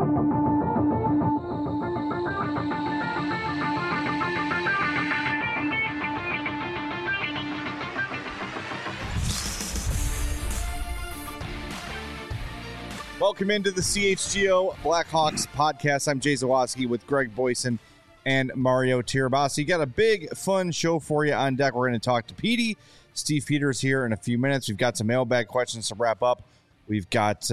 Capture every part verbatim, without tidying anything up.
Welcome into the C H G O Blackhawks podcast. I'm Jay Zawaski with Greg Boyson and Mario Tirabassi. Got a big, fun show for you on deck. We're going to talk to Petey. Steve Peters here in a few minutes. We've got some mailbag questions to wrap up. We've got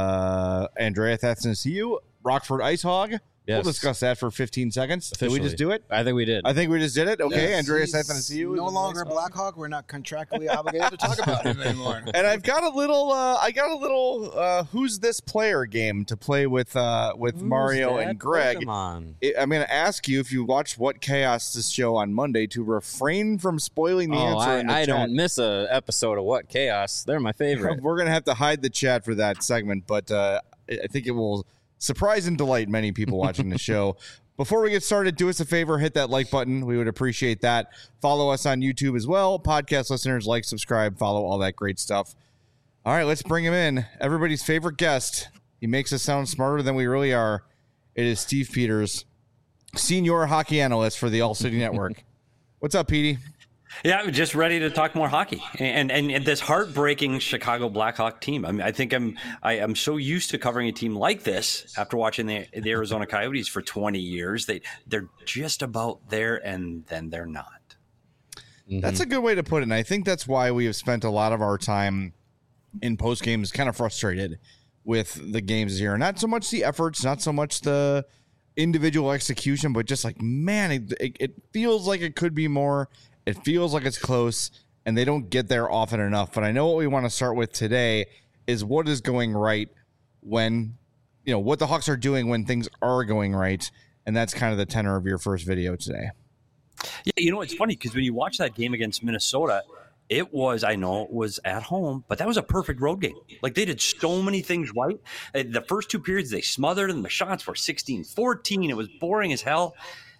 uh, Andrea Athanasiou, Rockford Ice Hog. Yes. We'll discuss that for fifteen seconds. Officially. Did we just do it? I think we did. I think we just did it. Okay, yes, Andreas Athanasiou. No longer a Blackhawk. We're not contractually obligated to talk about him anymore. And I've got a little, uh, I got a little, uh, who's this player game to play with, uh, with Who's Mario that and Greg. Pokemon? It, I'm going to ask you if you watched What Chaos this show on Monday to refrain from spoiling the Oh, answer. I, in the I chat. don't miss a episode of What Chaos. They're my favorite. We're going to have to hide the chat for that segment, but uh, I think it will surprise and delight many people watching the show. Before we get started, do us a favor, hit that like button. We would appreciate that. Follow us on YouTube as well. Podcast listeners, like, subscribe, follow, all that great stuff. All right, let's bring him in. Everybody's favorite guest. He makes us sound smarter than we really are. It is Steve Peters, senior hockey analyst for the All City Network. What's up, Petey? Yeah, I'm just ready to talk more hockey and, and and this heartbreaking Chicago Blackhawk team. I mean, I think I'm I am so used to covering a team like this after watching the, the Arizona Coyotes for twenty years. They they're just about there, and then they're not. Mm-hmm. That's a good way to put it. And I think that's why we have spent a lot of our time in post games kind of frustrated with the games here. Not so much the efforts, not so much the individual execution, but just like, man, it, it, it feels like it could be more. It feels like it's close, and they don't get there often enough. But I know what we want to start with today is what is going right when, you know, what the Hawks are doing when things are going right. And that's kind of the tenor of your first video today. Yeah, you know, it's funny because when you watch that game against Minnesota, it was, I know it was at home, but that was a perfect road game. Like, they did so many things right. The first two periods, they smothered, and the shots were sixteen fourteen. It was boring as hell.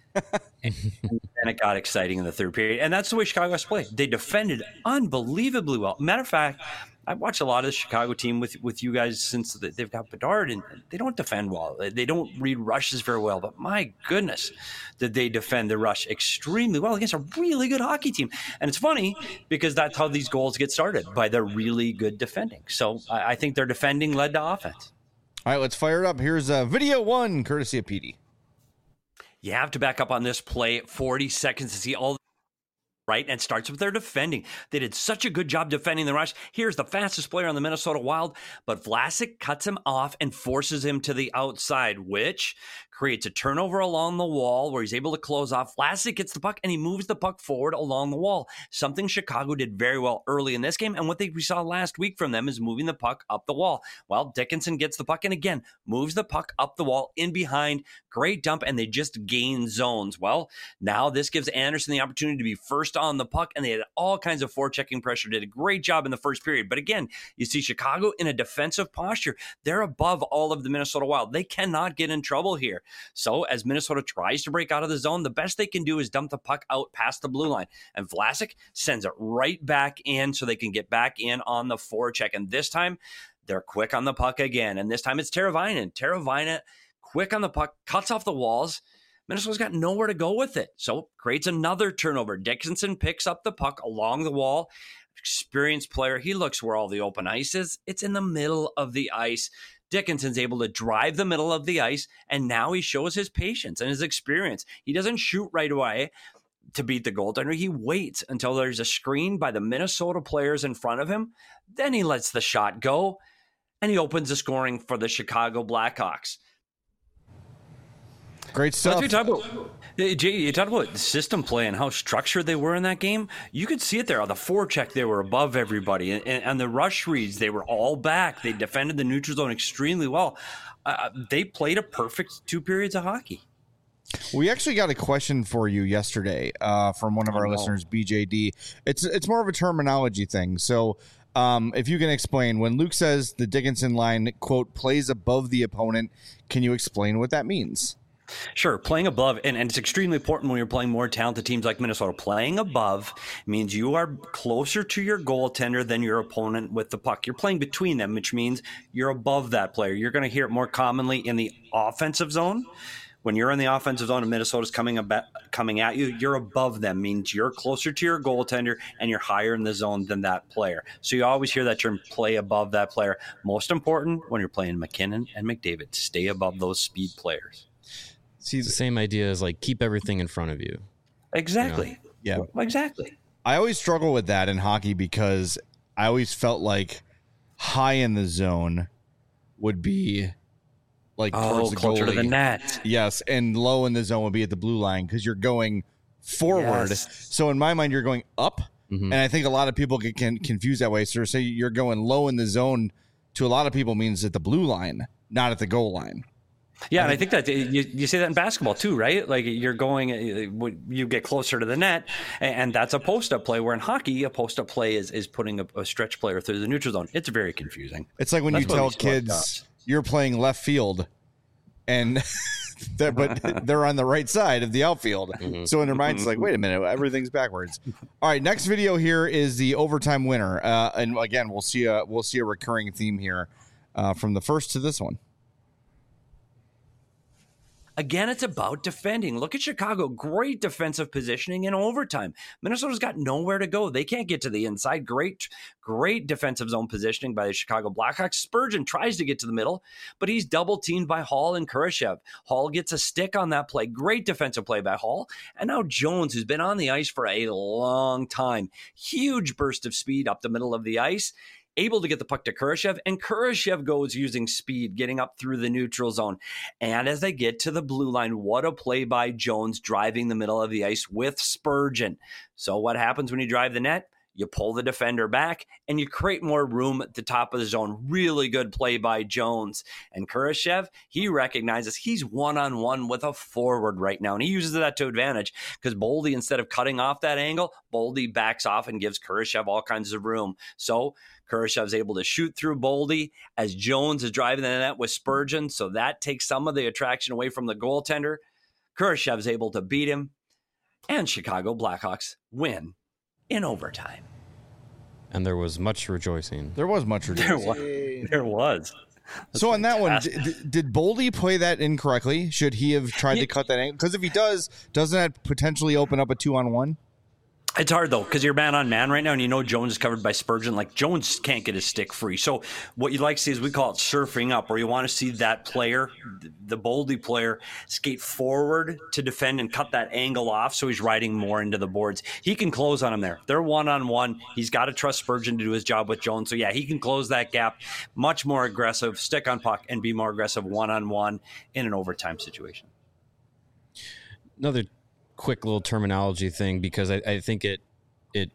and then it got exciting in the third period. And that's the way Chicago has to play. They defended unbelievably well. Matter of fact, I've watched a lot of the Chicago team with, with you guys since they've got Bedard, and they don't defend well. They don't read rushes very well. But my goodness, did they defend the rush extremely well against a really good hockey team. And it's funny because that's how these goals get started, by their really good defending. So I, I think their defending led to offense. All right, let's fire it up. Here's uh, video one, courtesy of Petey. You have to back up on this play forty seconds to see all right, and it starts with their defending. They did such a good job defending the rush. Here's the fastest player on the Minnesota Wild, but Vlasic cuts him off and forces him to the outside, which creates a turnover along the wall where he's able to close off. Vlasic gets the puck, and he moves the puck forward along the wall, something Chicago did very well early in this game, and what they, we saw last week from them is moving the puck up the wall. Well, Dickinson gets the puck, and again, moves the puck up the wall in behind. Great dump, and they just gain zones. Well, now this gives Anderson the opportunity to be first on the puck, and they had all kinds of forechecking pressure. Did a great job in the first period. But again, you see Chicago in a defensive posture. They're above all of the Minnesota Wild. They cannot get in trouble here. So as Minnesota tries to break out of the zone, the best they can do is dump the puck out past the blue line. And Vlasic sends it right back in so they can get back in on the forecheck. And this time, they're quick on the puck again. And this time it's Teravainen. Teravainen, quick on the puck, cuts off the walls. Minnesota's got nowhere to go with it. So creates another turnover. Dickinson picks up the puck along the wall. Experienced player. He looks where all the open ice is. It's in the middle of the ice. Dickinson's able to drive the middle of the ice, and now he shows his patience and his experience. He doesn't shoot right away to beat the goaltender. He waits until there's a screen by the Minnesota players in front of him. Then he lets the shot go, and he opens the scoring for the Chicago Blackhawks. Great stuff. Let's talk about, Jay, you talked about the system play and how structured they were in that game. You could see it there. On the forecheck, they were above everybody. And, and the rush reads, they were all back. They defended the neutral zone extremely well. Uh, they played a perfect two periods of hockey. We actually got a question for you yesterday uh, from one of our oh, no. listeners, B J D. It's it's more of a terminology thing. So um, if you can explain, when Luke says the Dickinson line, quote, plays above the opponent, can you explain what that means? Sure, playing above, and, and it's extremely important when you're playing more talented teams like Minnesota. Playing above means you are closer to your goaltender than your opponent with the puck. You're playing between them, which means you're above that player. You're going to hear it more commonly in the offensive zone. When you're in the offensive zone and Minnesota's coming about, coming at you, you're above them, means you're closer to your goaltender and you're higher in the zone than that player. So you always hear that term, play above that player. Most important when you're playing McKinnon and McDavid, stay above those speed players. See, the same idea is like keep everything in front of you. Exactly. You know? Yeah. Exactly. I always struggle with that in hockey because I always felt like high in the zone would be like oh, towards the closer goalie. to the net. Yes, and low in the zone would be at the blue line because you're going forward. Yes. So in my mind, you're going up, Mm-hmm. and I think a lot of people get can confuse that way. So say you're going low in the zone to a lot of people means at the blue line, not at the goal line. Yeah, and I think that you, you say that in basketball too, right? Like you're going, you get closer to the net, and that's a post-up play. Where in hockey, a post-up play is, is putting a, a stretch player through the neutral zone. It's very confusing. It's like when That's you why tell we sport kids cops. you're playing left field, and they're, but they're on the right side of the outfield. Mm-hmm. So in their minds, it's like, wait a minute, everything's backwards. All right, next video here is the overtime winner, uh, and again, we'll see a we'll see a recurring theme here uh, from the first to this one. Again, it's about defending. Look at Chicago. Great defensive positioning in overtime. Minnesota's got nowhere to go. They can't get to the inside. Great, great defensive zone positioning by the Chicago Blackhawks. Spurgeon tries to get to the middle, but he's double teamed by Hall and Kurashev. Hall gets a stick on that play. Great defensive play by Hall. And now Jones, who's been on the ice for a long time. Huge burst of speed up the middle of the ice. Able to get the puck to Kurashev, and Kurashev goes using speed, getting up through the neutral zone. And as they get to the blue line, what a play by Jones driving the middle of the ice with Spurgeon. So what happens when you drive the net? You pull the defender back, and you create more room at the top of the zone. Really good play by Jones. And Kurashev, he recognizes he's one-on-one with a forward right now, and he uses that to advantage because Boldy, instead of cutting off that angle, Boldy backs off and gives Kurashev all kinds of room. So Kurashev's able to shoot through Boldy as Jones is driving the net with Spurgeon, so that takes some of the attraction away from the goaltender. Kurashev's able to beat him, and Chicago Blackhawks win in overtime. And there was much rejoicing. There was much There rejoicing. was. There was. That's So on that one, fantastic. did, did Boldy play that incorrectly? Should he have tried to cut that angle? Because if he does, doesn't that potentially open up a two-on-one? It's hard, though, because you're man on man right now, and you know Jones is covered by Spurgeon. Like, Jones can't get his stick free. So what you'd like to see is we call it surfing up, where you want to see that player, the Boldy player, skate forward to defend and cut that angle off so he's riding more into the boards. He can close on him there. They're one-on-one. He's got to trust Spurgeon to do his job with Jones. So, yeah, he can close that gap. Much more aggressive, stick on puck, and be more aggressive one-on-one in an overtime situation. Another quick little terminology thing, because I, I think it it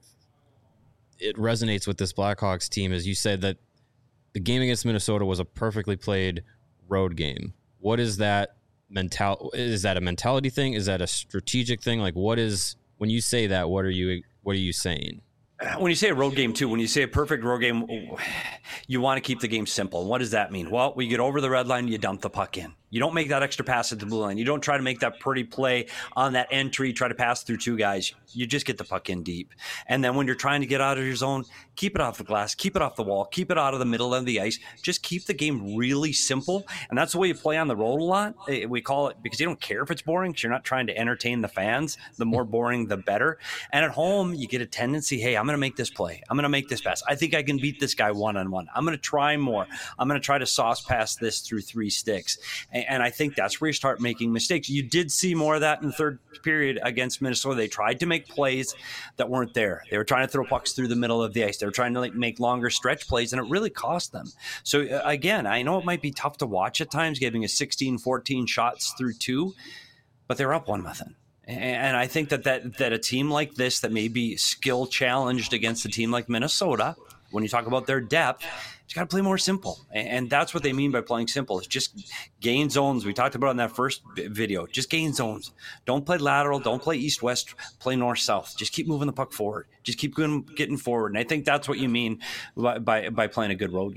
it resonates with this Blackhawks team. As you said, that the game against Minnesota was a perfectly played road game. What is that mental? Is that a mentality thing? Is that a strategic thing? Like, what is, when you say that, what are you what are you saying? When you say a road game, too, when you say a perfect road game, you want to keep the game simple. What does that mean? Well, we get over the red line, you dump the puck in. You don't make that extra pass at the blue line. You don't try to make that pretty play on that entry, try to pass through two guys. You just get the puck in deep. And then when you're trying to get out of your zone, keep it off the glass, keep it off the wall, keep it out of the middle of the ice. Just keep the game really simple. And that's the way you play on the road a lot. We call it, because you don't care if it's boring, because you're not trying to entertain the fans. The more boring, the better. And at home, you get a tendency, hey, I'm going to make this play. I'm going to make this pass. I think I can beat this guy one-on-one. I'm going to try more. I'm going to try to sauce pass this through three sticks. And I think that's where you start making mistakes. You did see more of that in the third period against Minnesota. They tried to make plays that weren't there. They were trying to throw pucks through the middle of the ice. They were trying to like make longer stretch plays, and it really cost them. So uh, again, I know it might be tough to watch at times, giving a sixteen, fourteen shots through two, but they're up one nothing. And I think that, that that a team like this that may be skill challenged against a team like Minnesota, when you talk about their depth, you got to play more simple. And that's what they mean by playing simple. It's just gain zones. We talked about in that first video. Just gain zones. Don't play lateral. Don't play east-west. Play north-south. Just keep moving the puck forward. Just keep getting forward. And I think that's what you mean by, by, by playing a good road game.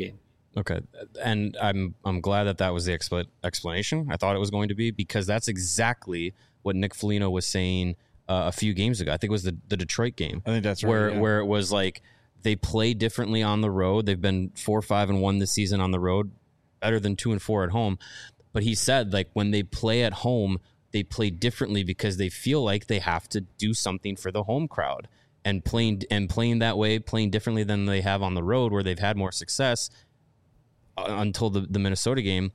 Okay, and I'm I'm glad that that was the expl- explanation. I thought it was going to be, because that's exactly what Nick Foligno was saying uh, a few games ago. I think it was the, the Detroit game. I think that's right. Where yeah. where it was like they play differently on the road. They've been four, five, and one this season on the road, better than two and four at home. But he said, like, when they play at home, they play differently because they feel like they have to do something for the home crowd, and playing and playing that way, playing differently than they have on the road where they've had more success until the, the Minnesota game,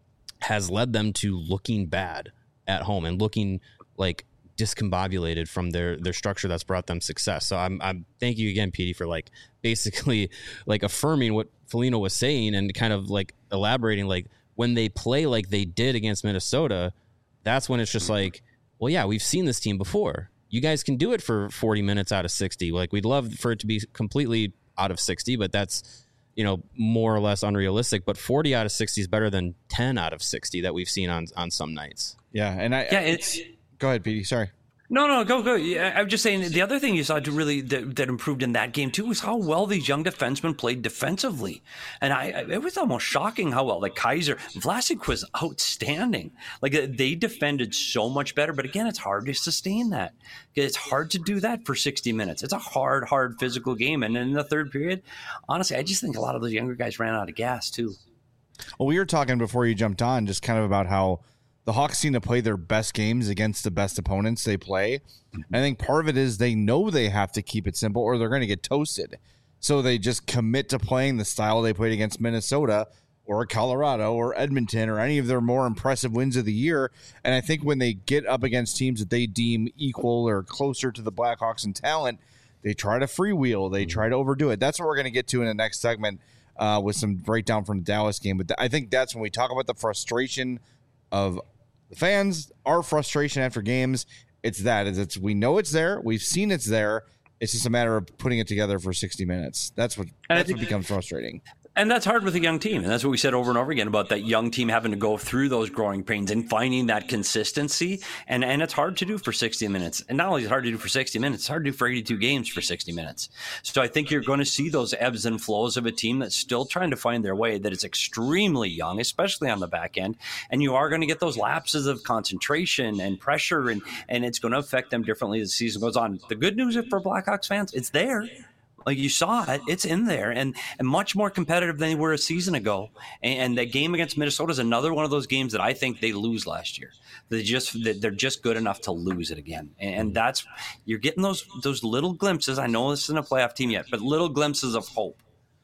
has led them to looking bad at home and looking like discombobulated from their their structure that's brought them success. So I'm I'm thank you again, Petey, for like basically like affirming what Foligno was saying and kind of like elaborating, like when they play like they did against Minnesota, that's when it's just like, well, yeah, we've seen this team before. You guys can do it for forty minutes out of sixty. Like, we'd love for it to be completely out of sixty, but that's, you know, more or less unrealistic. But forty out of sixty is better than ten out of sixty that we've seen on, on some nights. Yeah, and I Yeah, it's. Go ahead, Petey. Sorry. No, no, go, go. Yeah, I'm just saying the other thing you saw to really that, that improved in that game too was how well these young defensemen played defensively, and I, I it was almost shocking how well. Like Kaiser, Vlasic was outstanding. Like they defended so much better. But again, it's hard to sustain that. It's hard to do that for sixty minutes. It's a hard, hard physical game. And in the third period, honestly, I just think a lot of those younger guys ran out of gas too. Well, we were talking before you jumped on just kind of about how the Hawks seem to play their best games against the best opponents they play. Mm-hmm. I think part of it is they know they have to keep it simple or they're going to get toasted. So they just commit to playing the style they played against Minnesota or Colorado or Edmonton or any of their more impressive wins of the year. And I think when they get up against teams that they deem equal or closer to the Blackhawks in talent, they try to freewheel. They try to overdo it. That's what we're going to get to in the next segment uh, with some breakdown from the Dallas game. But th- I think that's when we talk about the frustration of the fans, our frustration after games. It's that is it's we know it's there, we've seen it's there. It's just a matter of putting it together for sixty minutes. That's what that's what becomes frustrating. And that's hard with a young team. And that's what we said over and over again about that young team having to go through those growing pains and finding that consistency. And and it's hard to do for sixty minutes. And not only is it hard to do for sixty minutes, it's hard to do for eighty-two games for sixty minutes. So I think you're going to see those ebbs and flows of a team that's still trying to find their way, that is extremely young, especially on the back end. And you are going to get those lapses of concentration and pressure, and, and it's going to affect them differently as the season goes on. The good news for Blackhawks fans, it's there. Like you saw it, it's in there, and, and much more competitive than they were a season ago. And, and that game against Minnesota is another one of those games that I think they lose last year. They just they're just good enough to lose it again, and that's you're getting those those little glimpses. I know this isn't a playoff team yet, but little glimpses of hope.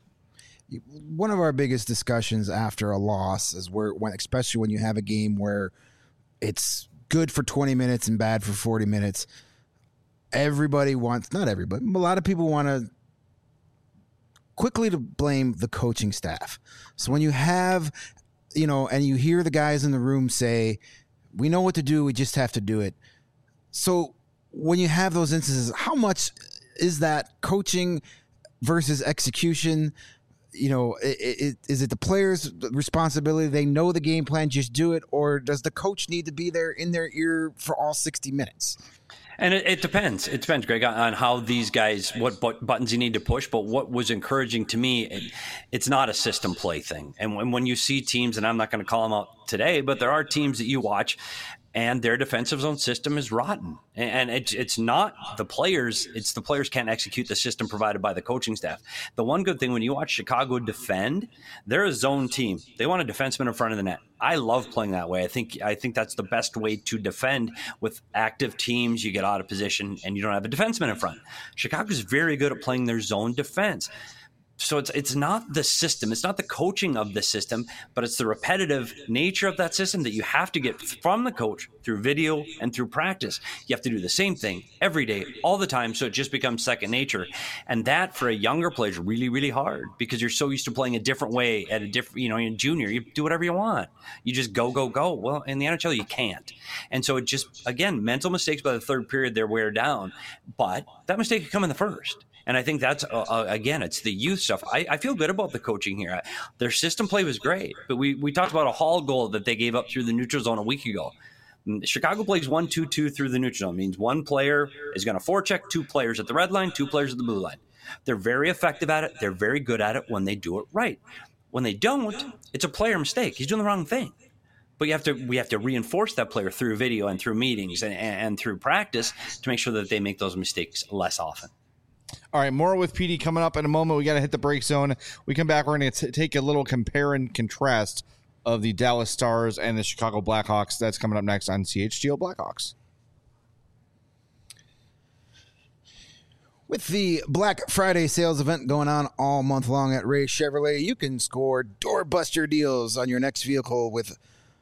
One of our biggest discussions after a loss is where, when, especially when you have a game where it's good for twenty minutes and bad for forty minutes. Everybody wants, not everybody, a lot of people want to quickly to blame the coaching staff. So when you have, you know, and you hear the guys in the room say, we know what to do, we just have to do it. So when you have those instances, how much is that coaching versus execution? You know, it, it, is it the players' responsibility? They know the game plan, just do it. Or does the coach need to be there in their ear for all sixty minutes? And it, it depends. It depends, Greg, on how these guys, what, what buttons you need to push. But what was encouraging to me, it, it's not a system play thing. And when, when you see teams, and I'm not going to call them out today, but there are teams that you watch and their defensive zone system is rotten. And it's it's not the players. It's the players can't execute the system provided by the coaching staff. The one good thing when you watch Chicago defend, they're a zone team. They want a defenseman in front of the net. I love playing that way. I think I think that's the best way to defend. With active teams, you get out of position and you don't have a defenseman in front. Chicago's very good at playing their zone defense. So it's it's not the system, it's not the coaching of the system, but it's the repetitive nature of that system that you have to get from the coach through video and through practice. You have to do the same thing every day, all the time, so it just becomes second nature. And that for a younger player is really, really hard because you're so used to playing a different way at a different, you know, in junior, you do whatever you want. You just go, go, go. Well, in the N H L, you can't. And so it just, again, mental mistakes by the third period, they're wear down. But that mistake could come in the first. And I think that's, uh, uh, again, it's the youth stuff. I, I feel good about the coaching here. I, their system play was great, but we, we talked about a Hall goal that they gave up through the neutral zone a week ago. Chicago plays one two two through the neutral zone. It means one player is going to forecheck two players at the red line, two players at the blue line. They're very effective at it. They're very good at it when they do it right. When they don't, it's a player mistake. He's doing the wrong thing. But you have to we have to reinforce that player through video and through meetings and, and through practice to make sure that they make those mistakes less often. All right, more with P D coming up in a moment. We got to hit the break zone. We come back, we're going to take a little compare and contrast of the Dallas Stars and the Chicago Blackhawks. That's coming up next on C H G O Blackhawks. With the Black Friday sales event going on all month long at Ray Chevrolet, you can score doorbuster deals on your next vehicle with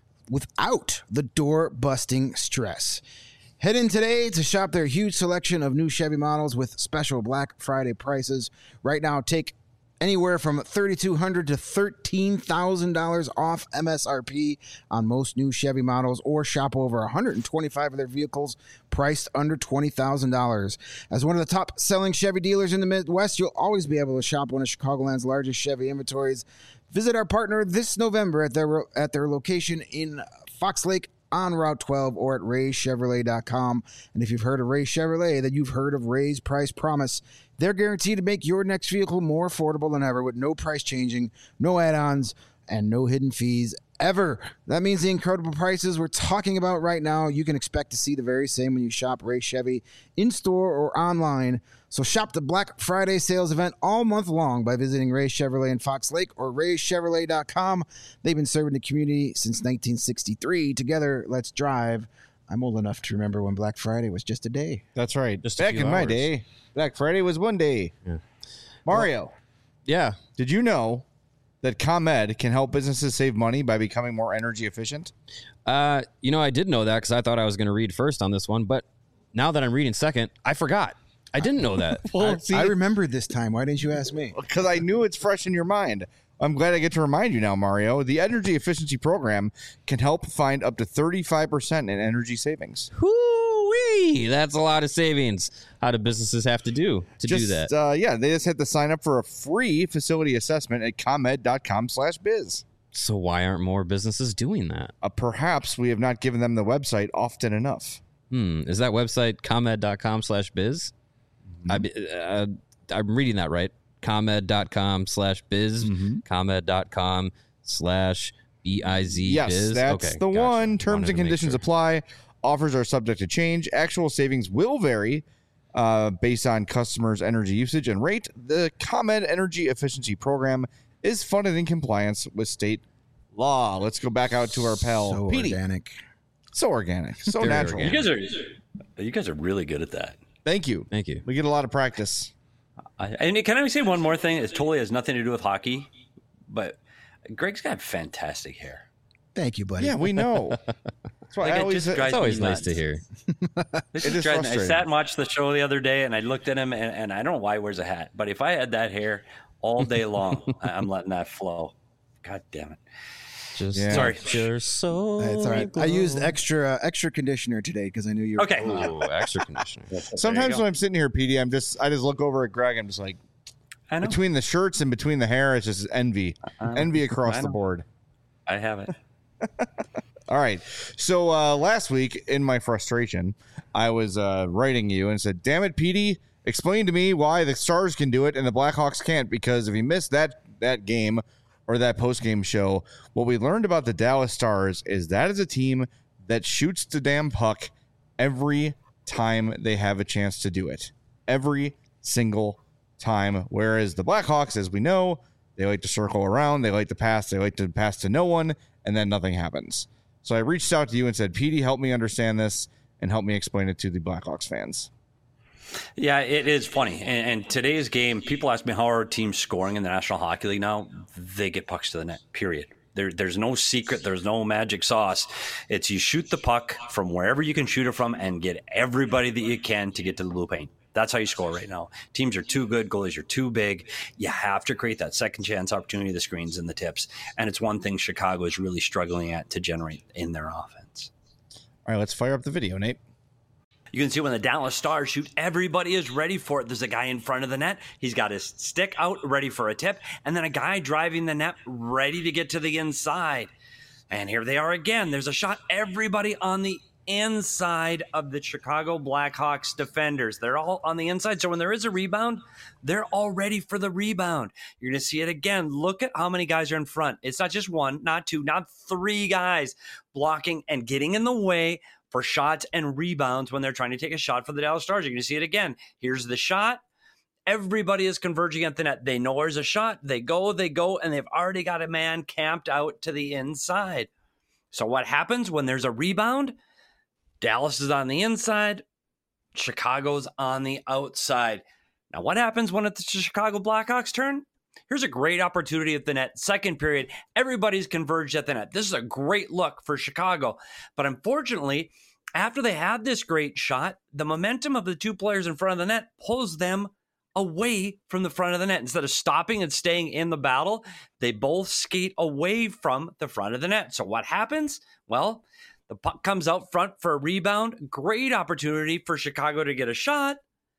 without the door-busting stress. Head in today to shop their huge selection of new Chevy models with special Black Friday prices. Right now, take anywhere from thirty-two hundred dollars to thirteen thousand dollars off M S R P on most new Chevy models, or shop over one hundred twenty-five of their vehicles priced under twenty thousand dollars. As one of the top-selling Chevy dealers in the Midwest, you'll always be able to shop one of Chicagoland's largest Chevy inventories. Visit our partner this November at their at their location in Fox Lake on Route twelve or at ray chevrolet dot com. And if you've heard of Ray Chevrolet, then you've heard of Ray's Price Promise. They're guaranteed to make your next vehicle more affordable than ever with no price changing, no add-ons, and no hidden fees ever. That means the incredible prices we're talking about right now, you can expect to see the very same when you shop Ray Chevy in-store or online. So shop the Black Friday sales event all month long by visiting Ray Chevrolet in Fox Lake or ray chevrolet dot com. They've been serving the community since nineteen sixty-three. Together, let's drive. I'm old enough to remember when Black Friday was just a day. That's right. Just a Back few in my hours. day, Black Friday was one day. Yeah. Mario, Yeah. did you know that ComEd can help businesses save money by becoming more energy efficient? Uh, you know, I did know that because I thought I was going to read first on this one, but now that I'm reading second, I forgot. I didn't know that. Well, see, I remembered this time. Why didn't you ask me? because I knew it's fresh in your mind. I'm glad I get to remind you now, Mario. The Energy Efficiency Program can help find up to thirty-five percent in energy savings. Whoo-wee! That's a lot of savings. How do businesses have to do to Just, do that? Uh, yeah, they just have to sign up for a free facility assessment at comed dot com slash biz. So why aren't more businesses doing that? Uh, perhaps we have not given them the website often enough. Hmm. Is that website comed dot com slash biz? I, uh, I'm reading that right. comed dot com slash biz. Mm-hmm. comed dot com slash B I Z Yes, biz. that's Okay, the gotcha. one. Terms Wanted and to make conditions sure. apply. Offers are subject to change. Actual savings will vary uh, based on customers' energy usage and rate. The ComEd Energy Efficiency Program is funded in compliance with state law. Let's go back out to our pal So Petey. organic. So organic, so Very natural. You organic. guys are you guys are really good at that. Thank you. Thank you. We get a lot of practice. I, and can I say one more thing? It totally has nothing to do with hockey, but Greg's got fantastic hair. Thank you, buddy. Yeah, we know. That's why Like, I it always. just drives It's always me nice to nuts. hear. This It is is driving me- I frustrating. sat and watched the show the other day, and I looked at him, and, and I don't know why he wears a hat, but if I had that hair all day long, I- I'm letting that flow. God damn it. Just Yeah. Sorry. let your soul. That's all right. I used glow. extra uh, extra conditioner today because I knew you were Okay. Ooh, extra conditioner. Sometimes go. when I'm sitting here, Petey, I'm just I just look over at Greg. I'm just like I know. between the shirts and between the hair, it's just envy, Uh, envy across I the know. board. I have it. All right. So uh, last week, in my frustration, I was uh, writing you and said, "Damn it, Petey! Explain to me why the Stars can do it and the Blackhawks can't. Because if you missed that that game or that post game show, what we learned about the Dallas Stars is that is a team that shoots the damn puck every time they have a chance to do it. Every single time. Whereas the Blackhawks, as we know, they like to circle around, they like to pass, they like to pass to no one, and then nothing happens." So I reached out to you and said, "Petey, help me understand this and help me explain it to the Blackhawks fans." Yeah, it is funny. And, and today's game, people ask me how are teams scoring in the National Hockey League now. They get pucks to the net, period. There, there's no secret. There's no magic sauce. It's you shoot the puck from wherever you can shoot it from and get everybody that you can to get to the blue paint. That's how you score right now. Teams are too good. Goalies are too big. You have to create that second chance opportunity, the screens and the tips. And it's one thing Chicago is really struggling at to generate in their offense. All right, let's fire up the video, Nate. You can see when the Dallas Stars shoot, everybody is ready for it. There's a guy in front of the net. He's got his stick out, ready for a tip. And then a guy driving the net, ready to get to the inside. And here they are again. There's a shot. Everybody on the inside of the Chicago Blackhawks defenders. They're all on the inside. So when there is a rebound, they're all ready for the rebound. You're going to see it again. Look at how many guys are in front. It's not just one, not two, not three guys blocking and getting in the way for shots and rebounds when they're trying to take a shot for the Dallas Stars. You're going to see it again. Here's the shot. Everybody is converging at the net. They know there's a shot. They go, they go, and they've already got a man camped out to the inside. So what happens when there's a rebound? Dallas is on the inside. Chicago's on the outside. Now, what happens when it's the Chicago Blackhawks' turn? Here's a great opportunity at the net. Second period, everybody's converged at the net. This is a great look for Chicago. But unfortunately, after they have this great shot, the momentum of the two players in front of the net pulls them away from the front of the net. Instead of stopping and staying in the battle, they both skate away from the front of the net. So what happens? Well, the puck comes out front for a rebound. Great opportunity for Chicago to get a shot.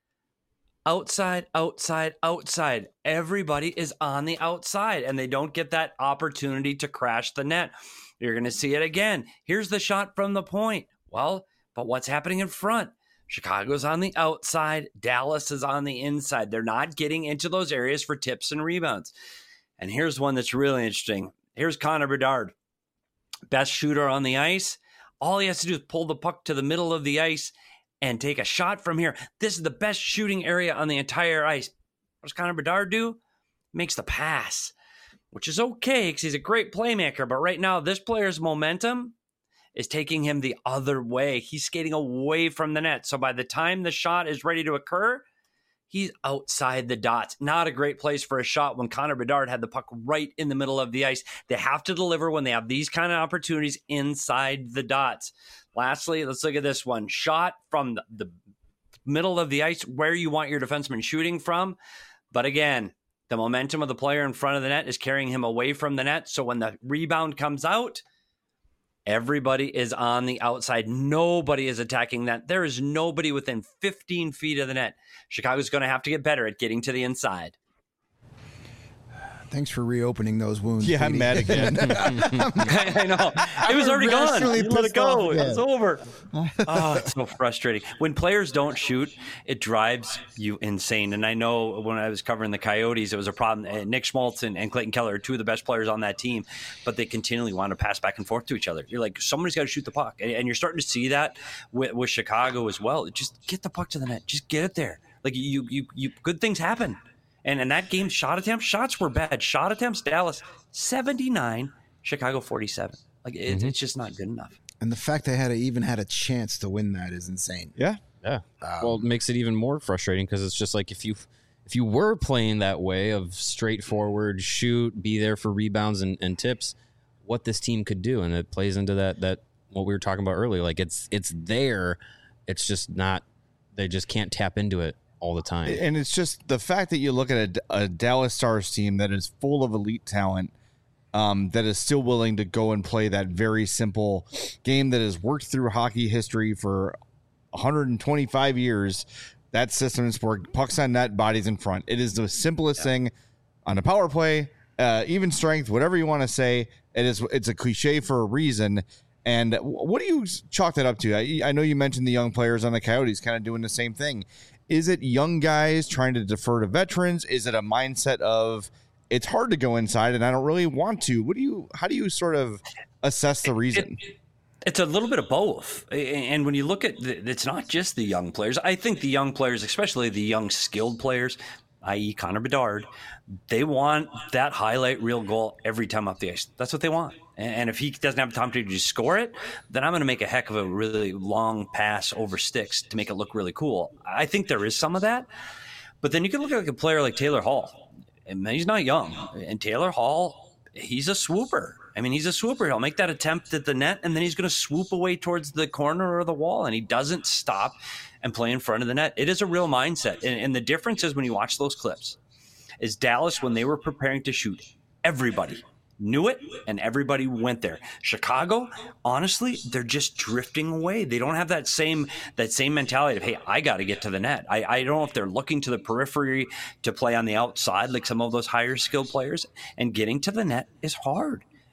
Outside, outside, outside. Everybody is on the outside, and they don't get that opportunity to crash the net. You're going to see it again. Here's the shot from the point. Well, but what's happening in front? Chicago's on the outside. Dallas is on the inside. They're not getting into those areas for tips and rebounds. And here's one that's really interesting. Here's Connor Bedard, best shooter on the ice. All he has to do is pull the puck to the middle of the ice and take a shot from here. This is the best shooting area on the entire ice. What does Connor Bedard do? Makes the pass, which is okay because he's a great playmaker. But right now, this player's momentum is taking him the other way. He's skating away from the net. So by the time the shot is ready to occur, he's outside the dots. Not a great place for a shot when Connor Bedard had the puck right in the middle of the ice. They have to deliver when they have these kind of opportunities inside the dots. Lastly, let's look at this one. Shot from the, the middle of the ice where you want your defenseman shooting from. But again, the momentum of the player in front of the net is carrying him away from the net. So when the rebound comes out, everybody is on the outside. Nobody is attacking that. There is nobody within fifteen feet of the net. Chicago's going to have to get better at getting to the inside. Thanks for reopening those wounds. Yeah, I'm mad again. I know. It was already gone. You let it go. It was over. Oh, it's so frustrating. When players don't shoot, it drives you insane. And I know when I was covering the Coyotes, it was a problem. And Nick Schmaltz and, and Clayton Keller are two of the best players on that team, but they continually want to pass back and forth to each other. You're like, somebody's got to shoot the puck. And, and you're starting to see that with, with Chicago as well. Just get the puck to the net. Just get it there. Like you, you, you, good things happen. And in that game, shot attempts, shots were bad. Shot attempts, Dallas seventy-nine, Chicago forty-seven. Like it, mm-hmm. It's just not good enough. And the fact they had a, even had a chance to win that is insane. Yeah, yeah. Um, well, it makes it even more frustrating because it's just like if you if you were playing that way of straightforward shoot, be there for rebounds and, and tips, what this team could do, and it plays into that that what we were talking about earlier. Like it's it's there, it's just not. They just can't tap into it all the time. And it's just the fact that you look at a, a Dallas Stars team that is full of elite talent, um, that is still willing to go and play that very simple game that has worked through hockey history for one hundred twenty-five years. That system is where pucks on net, bodies in front. It is the simplest yeah. thing on a power play, uh, even strength, whatever you want to say. It is. It's a cliche for a reason. And what do you chalk that up to? I, I know you mentioned the young players on the Coyotes kind of doing the same thing. Is it young guys trying to defer to veterans? Is it a mindset of it's hard to go inside and I don't really want to? What do you? How do you sort of assess the reason? It, it, it's a little bit of both. And when you look at the, it's not just the young players. I think the young players, especially the young skilled players, that is. Connor Bedard, they want that highlight reel goal every time up the ice. That's what they want. And if he doesn't have time to just score it, then I'm going to make a heck of a really long pass over sticks to make it look really cool. I think there is some of that. But then you can look at like a player like Taylor Hall. And he's not young. And Taylor Hall, he's a swooper. I mean, he's a swooper. He'll make that attempt at the net, and then he's going to swoop away towards the corner or the wall, and he doesn't stop and play in front of the net. It is a real mindset. And, and the difference is when you watch those clips, is Dallas, when they were preparing to shoot, everybody knew it, and everybody went there. Chicago, honestly, they're just drifting away. They don't have that same that same mentality of, hey, I got to get to the net. I, I don't know if they're looking to the periphery to play on the outside like some of those higher skilled players, and getting to the net is hard.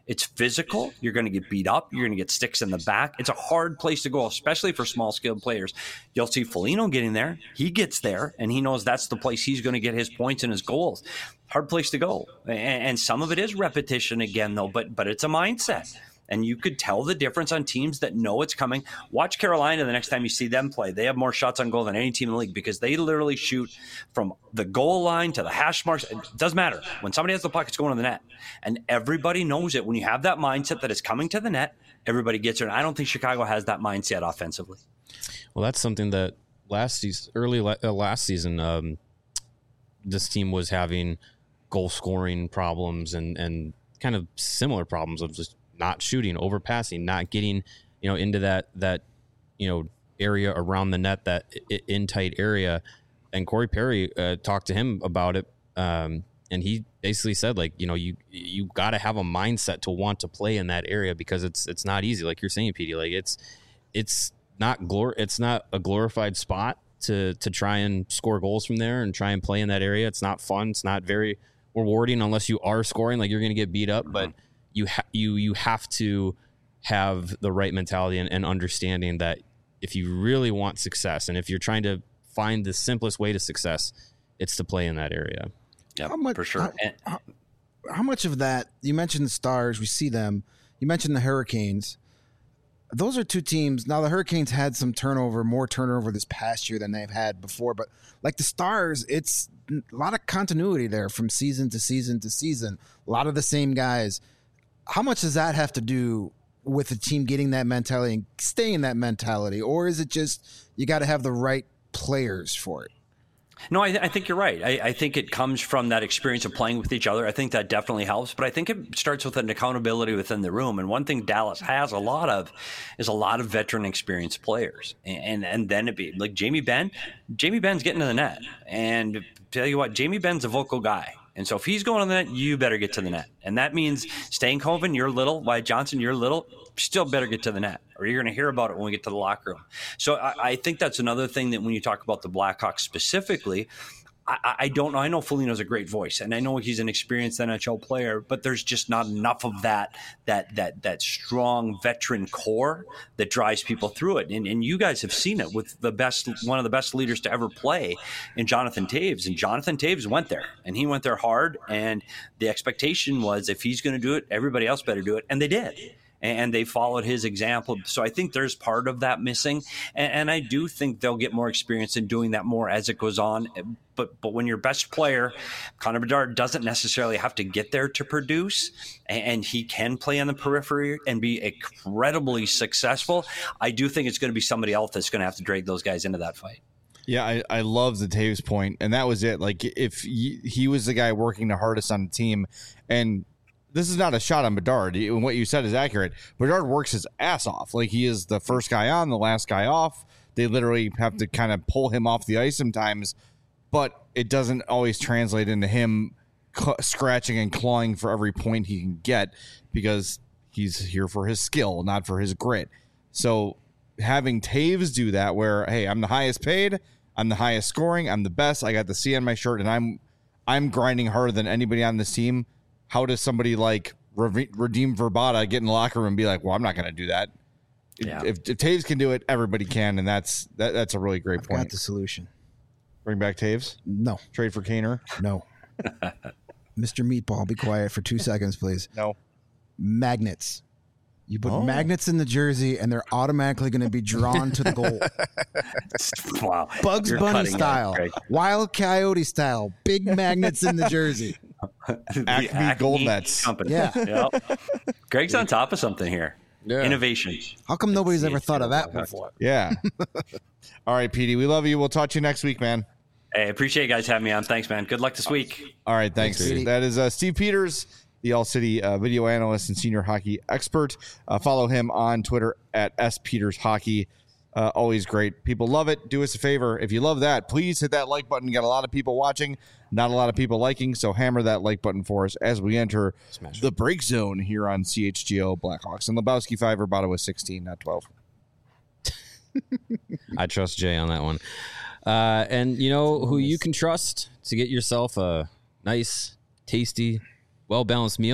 It's physical. You're going to get beat up. You're going to get sticks in the back. It's a hard place to go, especially for small skilled players. You'll see Foligno getting there. He gets there, and he knows that's the place he's going to get his points and his goals. Hard place to go. And, and some of it is repetition again, though, but but it's a mindset. And you could tell the difference on teams that know it's coming. Watch Carolina the next time you see them play. They have more shots on goal than any team in the league because they literally shoot from the goal line to the hash marks. It doesn't matter. When somebody has the puck, it's going to the net. And everybody knows it. When you have that mindset that it's coming to the net, everybody gets it. And I don't think Chicago has that mindset offensively. Well, that's something that last season, early uh, last season, um, this team was having goal scoring problems and, and kind of similar problems of just not shooting, overpassing, not getting, you know, into that, that, you know, area around the net, that in tight area. And Corey Perry uh, talked to him about it. Um, and he basically said, like, you know, you, you got to have a mindset to want to play in that area because it's, it's not easy. Like you're saying, P D, like it's, it's not glor it's not a glorified spot to, to try and score goals from there and try and play in that area. It's not fun. It's not very rewarding unless you are scoring, like you're going to get beat up, but you ha- you you have to have the right mentality and, and understanding that if you really want success and if you're trying to find the simplest way to success, it's to play in that area. Yeah, how much, for sure. How, and, how, how much of that, you mentioned the Stars, we see them. You mentioned the Hurricanes. Those are two teams. Now, the Hurricanes had some turnover, more turnover this past year than they've had before. But like the Stars, it's a lot of continuity there from season to season to season. A lot of the same guys. How much does that have to do with the team getting that mentality and staying in that mentality? Or is it just you got to have the right players for it? No, I, th- I think you're right. I, I think it comes from that experience of playing with each other. I think that definitely helps. But I think it starts with an accountability within the room. And one thing Dallas has a lot of is a lot of veteran experienced players. And and, and then it be like Jamie Benn. Jamie Benn's getting to the net. And tell you what, Jamie Benn's a vocal guy. And so if he's going on the net, you better get to the net. And that means Stankhoven, you're little. Wyatt Johnson, you're little. Still better get to the net, or you're going to hear about it when we get to the locker room. So I, I think that's another thing that when you talk about the Blackhawks specifically, I, I don't know. I know Foligno's a great voice, and I know he's an experienced N H L player, but there's just not enough of that that that that strong veteran core that drives people through it. And, and you guys have seen it with the best, one of the best leaders to ever play in Jonathan Toews. And Jonathan Toews went there, and he went there hard. And the expectation was if he's going to do it, everybody else better do it, and they did. And they followed his example. So I think there's part of that missing. And, and I do think they'll get more experience in doing that more as it goes on. But but when your best player, Connor Bedard, doesn't necessarily have to get there to produce, and, and he can play on the periphery and be incredibly successful, I do think it's going to be somebody else that's going to have to drag those guys into that fight. Yeah, I, I love the Toews point, and that was it. Like, if he, he was the guy working the hardest on the team, and this is not a shot on Bedard. What you said is accurate. Bedard works his ass off. Like, he is the first guy on, the last guy off. They literally have to kind of pull him off the ice sometimes, but it doesn't always translate into him c- scratching and clawing for every point he can get because he's here for his skill, not for his grit. So having Toews do that where, hey, I'm the highest paid, I'm the highest scoring, I'm the best, I got the C on my shirt, and I'm I'm grinding harder than anybody on this team. How does somebody like Radim Verbata get in the locker room and be like, well, I'm not going to do that? Yeah. If, if Toews can do it, everybody can, and that's that, that's a really great I've point. got the solution. Bring back Toews? No. Trade for Kaner? No. Mister Meatball, be quiet for two seconds, please. No. Magnets. You put oh. magnets in the jersey, and they're automatically going to be drawn to the goal. Wow. Bugs You're Bunny style. It, Wild Coyote style. Big magnets in the jersey. Acme, Acme Gold Nets. Company. Yeah. Yep. Greg's on top of something here. Yeah. Innovation. How come nobody's ever thought of that before? Yeah. All right, P D. We love you. We'll talk to you next week, man. Hey, appreciate you guys having me on. Thanks, man. Good luck this week. All right. Thanks. thanks that is uh, Steve Peters, the All-City uh, video analyst and senior hockey expert. Uh, follow him on Twitter at S Peters Hockey. Uh, always great. People love it. Do us a favor. If you love that, please hit that like button. Got a lot of people watching, not a lot of people liking, so hammer that like button for us as we enter Smash the it. break zone here on C H G O Blackhawks. And Lebowski five, Rabata was sixteen, not twelve. I trust Jay on that one. Uh, and you know who you can trust to get yourself a nice, tasty, well-balanced meal?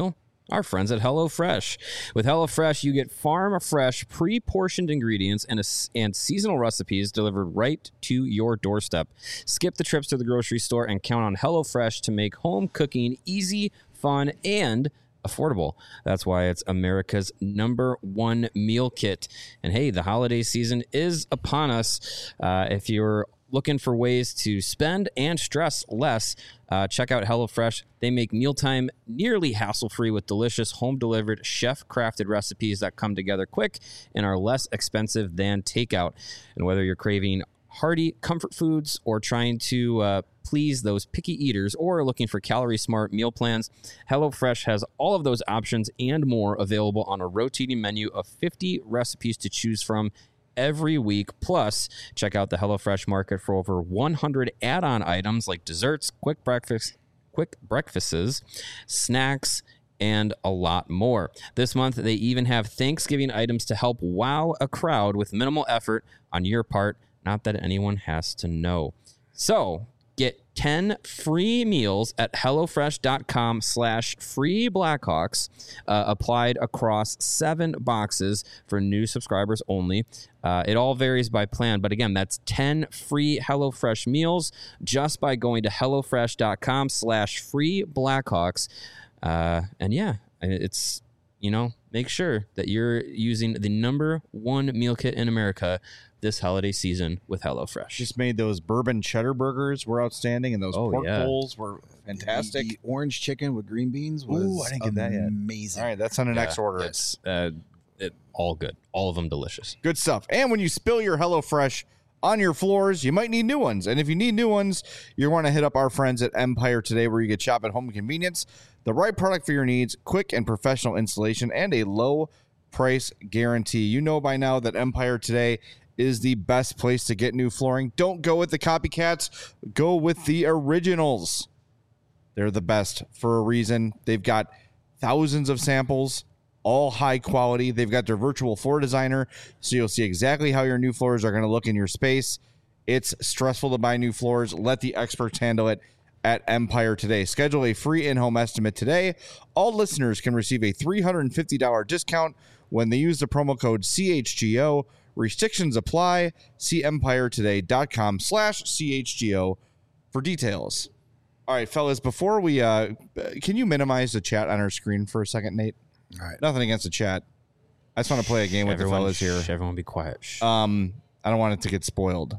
Our friends at HelloFresh. With HelloFresh, you get farm-fresh, pre-portioned ingredients and, a, and seasonal recipes delivered right to your doorstep. Skip the trips to the grocery store and count on HelloFresh to make home cooking easy, fun, and affordable. That's why it's America's number one meal kit. And hey, the holiday season is upon us. Uh, if you're looking for ways to spend and stress less, uh, check out HelloFresh. They make mealtime nearly hassle-free with delicious home-delivered, chef-crafted recipes that come together quick and are less expensive than takeout. And whether you're craving hearty comfort foods or trying to uh, please those picky eaters or looking for calorie-smart meal plans, HelloFresh has all of those options and more available on a rotating menu of fifty recipes to choose from every week. Plus, check out the HelloFresh Market for over one hundred add-on items like desserts, quick breakfast, quick breakfasts, snacks, and a lot more. This month, they even have Thanksgiving items to help wow a crowd with minimal effort on your part. Not that anyone has to know. So, get ten free meals at HelloFresh.com slash free Blackhawks uh, applied across seven boxes for new subscribers only. Uh, it all varies by plan, but again, that's ten free HelloFresh meals just by going to HelloFresh.com slash free Blackhawks. Uh, and yeah, it's, you know, make sure that you're using the number one meal kit in America this holiday season with HelloFresh. Just made those bourbon cheddar burgers were outstanding, and those Oh, pork yeah. bowls were fantastic. The, the orange chicken with green beans was Ooh, I didn't get that yet. amazing. All right, that's on the next Yeah, order. It's uh, it, all good. All of them delicious. Good stuff. And when you spill your HelloFresh on your floors, you might need new ones. And if you need new ones, you want to hit up our friends at Empire Today, where you get shop at home convenience, the right product for your needs, quick and professional installation, and a low price guarantee. You know by now that Empire Today is the best place to get new flooring. Don't go with the copycats. Go with the originals. They're the best for a reason. They've got thousands of samples, all high quality. They've got their virtual floor designer, so you'll see exactly how your new floors are going to look in your space. It's stressful to buy new floors. Let the experts handle it at Empire Today. Schedule a free in-home estimate today. All listeners can receive a three hundred fifty dollars discount when they use the promo code C H G O. Restrictions apply. See empiretoday.com slash CHGO for details. All right, fellas, before we, uh, can you minimize the chat on our screen for a second, Nate? All right. Nothing against the chat. I just want to play a game with everyone, the fellas here. Shh, everyone be quiet. Shh. Um, I don't want it to get spoiled.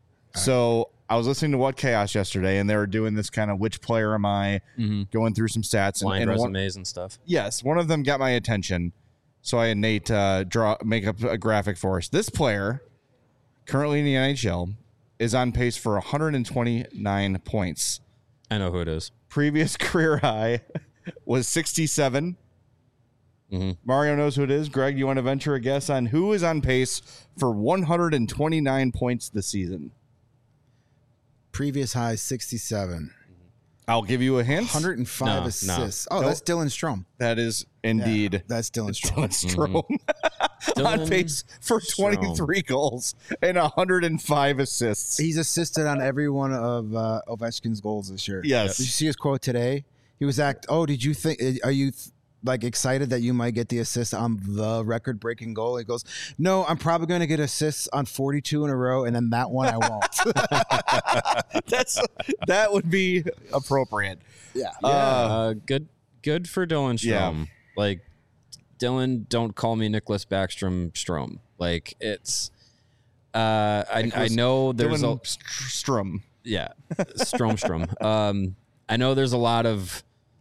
So I was listening to What Chaos yesterday, and they were doing this kind of which player am I, mm-hmm. going through some stats. And, Blind and one, resumes and stuff. yes, one of them got my attention. So I had Nate uh, draw make up a graphic for us. This player, currently in the N H L, is on pace for one hundred twenty-nine points. I know who it is. Previous career high was sixty-seven. Mm-hmm. Mario knows who it is. Greg, you want to venture a guess on who is on pace for one hundred twenty-nine points this season? Previous high sixty-seven. I'll give you a hint. one hundred five No, assists. no. Oh, Nope. that's Dylan Strome. That is Yeah, indeed that's Dylan Strome. Dylan Strome. on Dylan pace for twenty-three goals and one hundred five assists. He's assisted on every one of uh, Ovechkin's goals this year. Yes. Did you see his quote today? He was act. Oh, did you think? Are you th- like excited that you might get the assist on the record-breaking goal? He goes, "No, I'm probably going to get assists on forty-two in a row, and then that one I won't." That's that would be appropriate. yeah. Yeah, Uh, uh, good, good for Dylan Yeah. Strome. Like Dylan, don't call me Nicholas Backstrom Strome. Like it's, uh, I, I Nicholas know there's Dylan a Strum. yeah, Strome Strom. Um, I know there's a lot of.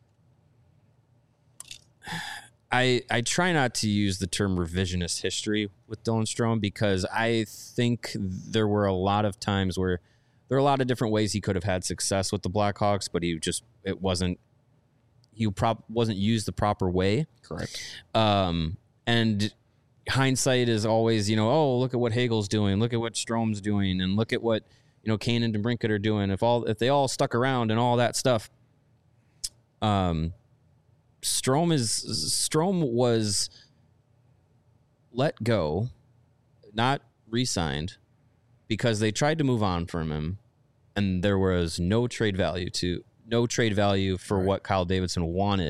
I I try not to use the term revisionist history with Dylan Strome because I think there were a lot of times where there are a lot of different ways he could have had success with the Blackhawks, but he just it wasn't he prop wasn't used the proper way. Correct. Um, and hindsight is always, you know, oh, look at what Hagel's doing, look at what Strome's doing, and look at what, you know, Kane and DeBrincat are doing. If all if they all stuck around and all that stuff. Um Strome is Strome was let go, not re-signed, because they tried to move on from him, and there was no trade value to no trade value for Right. what Kyle Davidson wanted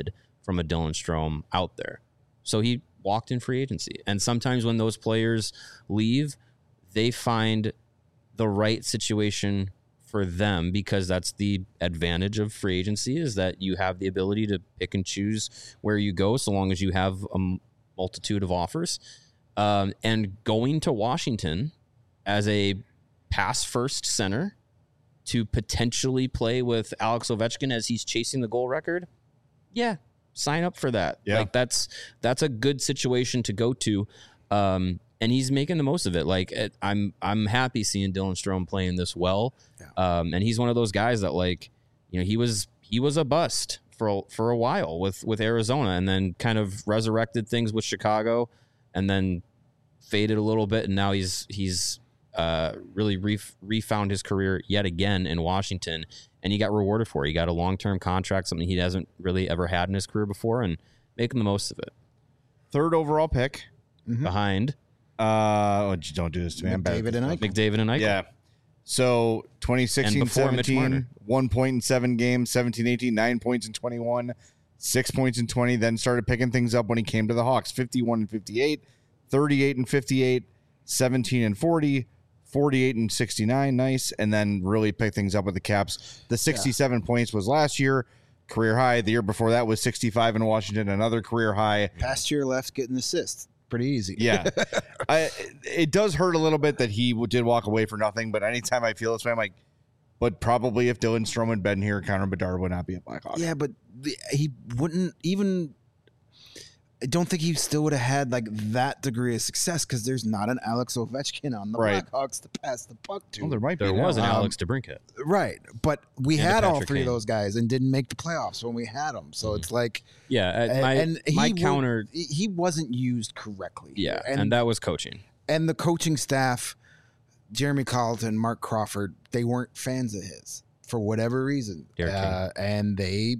from a Dylan Strome out there. So he walked in free agency. And sometimes when those players leave, they find the right situation for them, because that's the advantage of free agency, is that you have the ability to pick and choose where you go so long as you have a multitude of offers. Um, and going to Washington as a pass-first center to potentially play with Alex Ovechkin as he's chasing the goal record, yeah, sign up for that. Yeah. Like that's that's a good situation to go to, um, and he's making the most of it. Like it, I'm I'm happy seeing Dylan Strome playing this well, Yeah. um, and he's one of those guys that, like, you know, he was he was a bust for a, for a while with with Arizona, and then kind of resurrected things with Chicago, and then faded a little bit, and now he's he's uh, really re- refound his career yet again in Washington, and he got rewarded for it. He got a long-term contract, something he hasn't really ever had in his career before, and making the most of it. Third overall pick. Mhm. Behind Uh, oh, don't do this to me. I'm bad at McDavid this and stuff. Eichel. McDavid and Eichel. Yeah. So twenty sixteen And before Mitch seventeen, Marner. one point in seven games, seventeen eighteen, nine points in twenty-one, six points in twenty, then started picking things up when he came to the Hawks, fifty-one and fifty-eight, thirty-eight and fifty-eight, seventeen and forty, forty-eight and sixty-nine, nice, and then really picked things up with the Caps. The sixty-seven points was last year, career high. The year before that was sixty-five in Washington, another career high. Past year left getting assists. Pretty easy. Yeah. I, it does hurt a little bit that he did walk away for nothing, but anytime I feel this way, I'm like, but probably if Dylan Strome had been here, Connor Bedard would not be a Blackhawk. Yeah, but the, he wouldn't even. I don't think he still would have had like that degree of success because there's not an Alex Ovechkin on the Right. Blackhawks to pass the puck to. Well, there might be. There now. was an Um, Alex DeBrincat. Right, but we And had all Patrick three of Kane. those guys and didn't make the playoffs when we had them. So Mhm. it's like, Yeah, uh, and, my, and he my wa- counter. he he wasn't used correctly. Yeah, and and, that was coaching. and the coaching staff, Jeremy Colleton, Mark Crawford, they weren't fans of his for whatever reason, Derek uh, and they,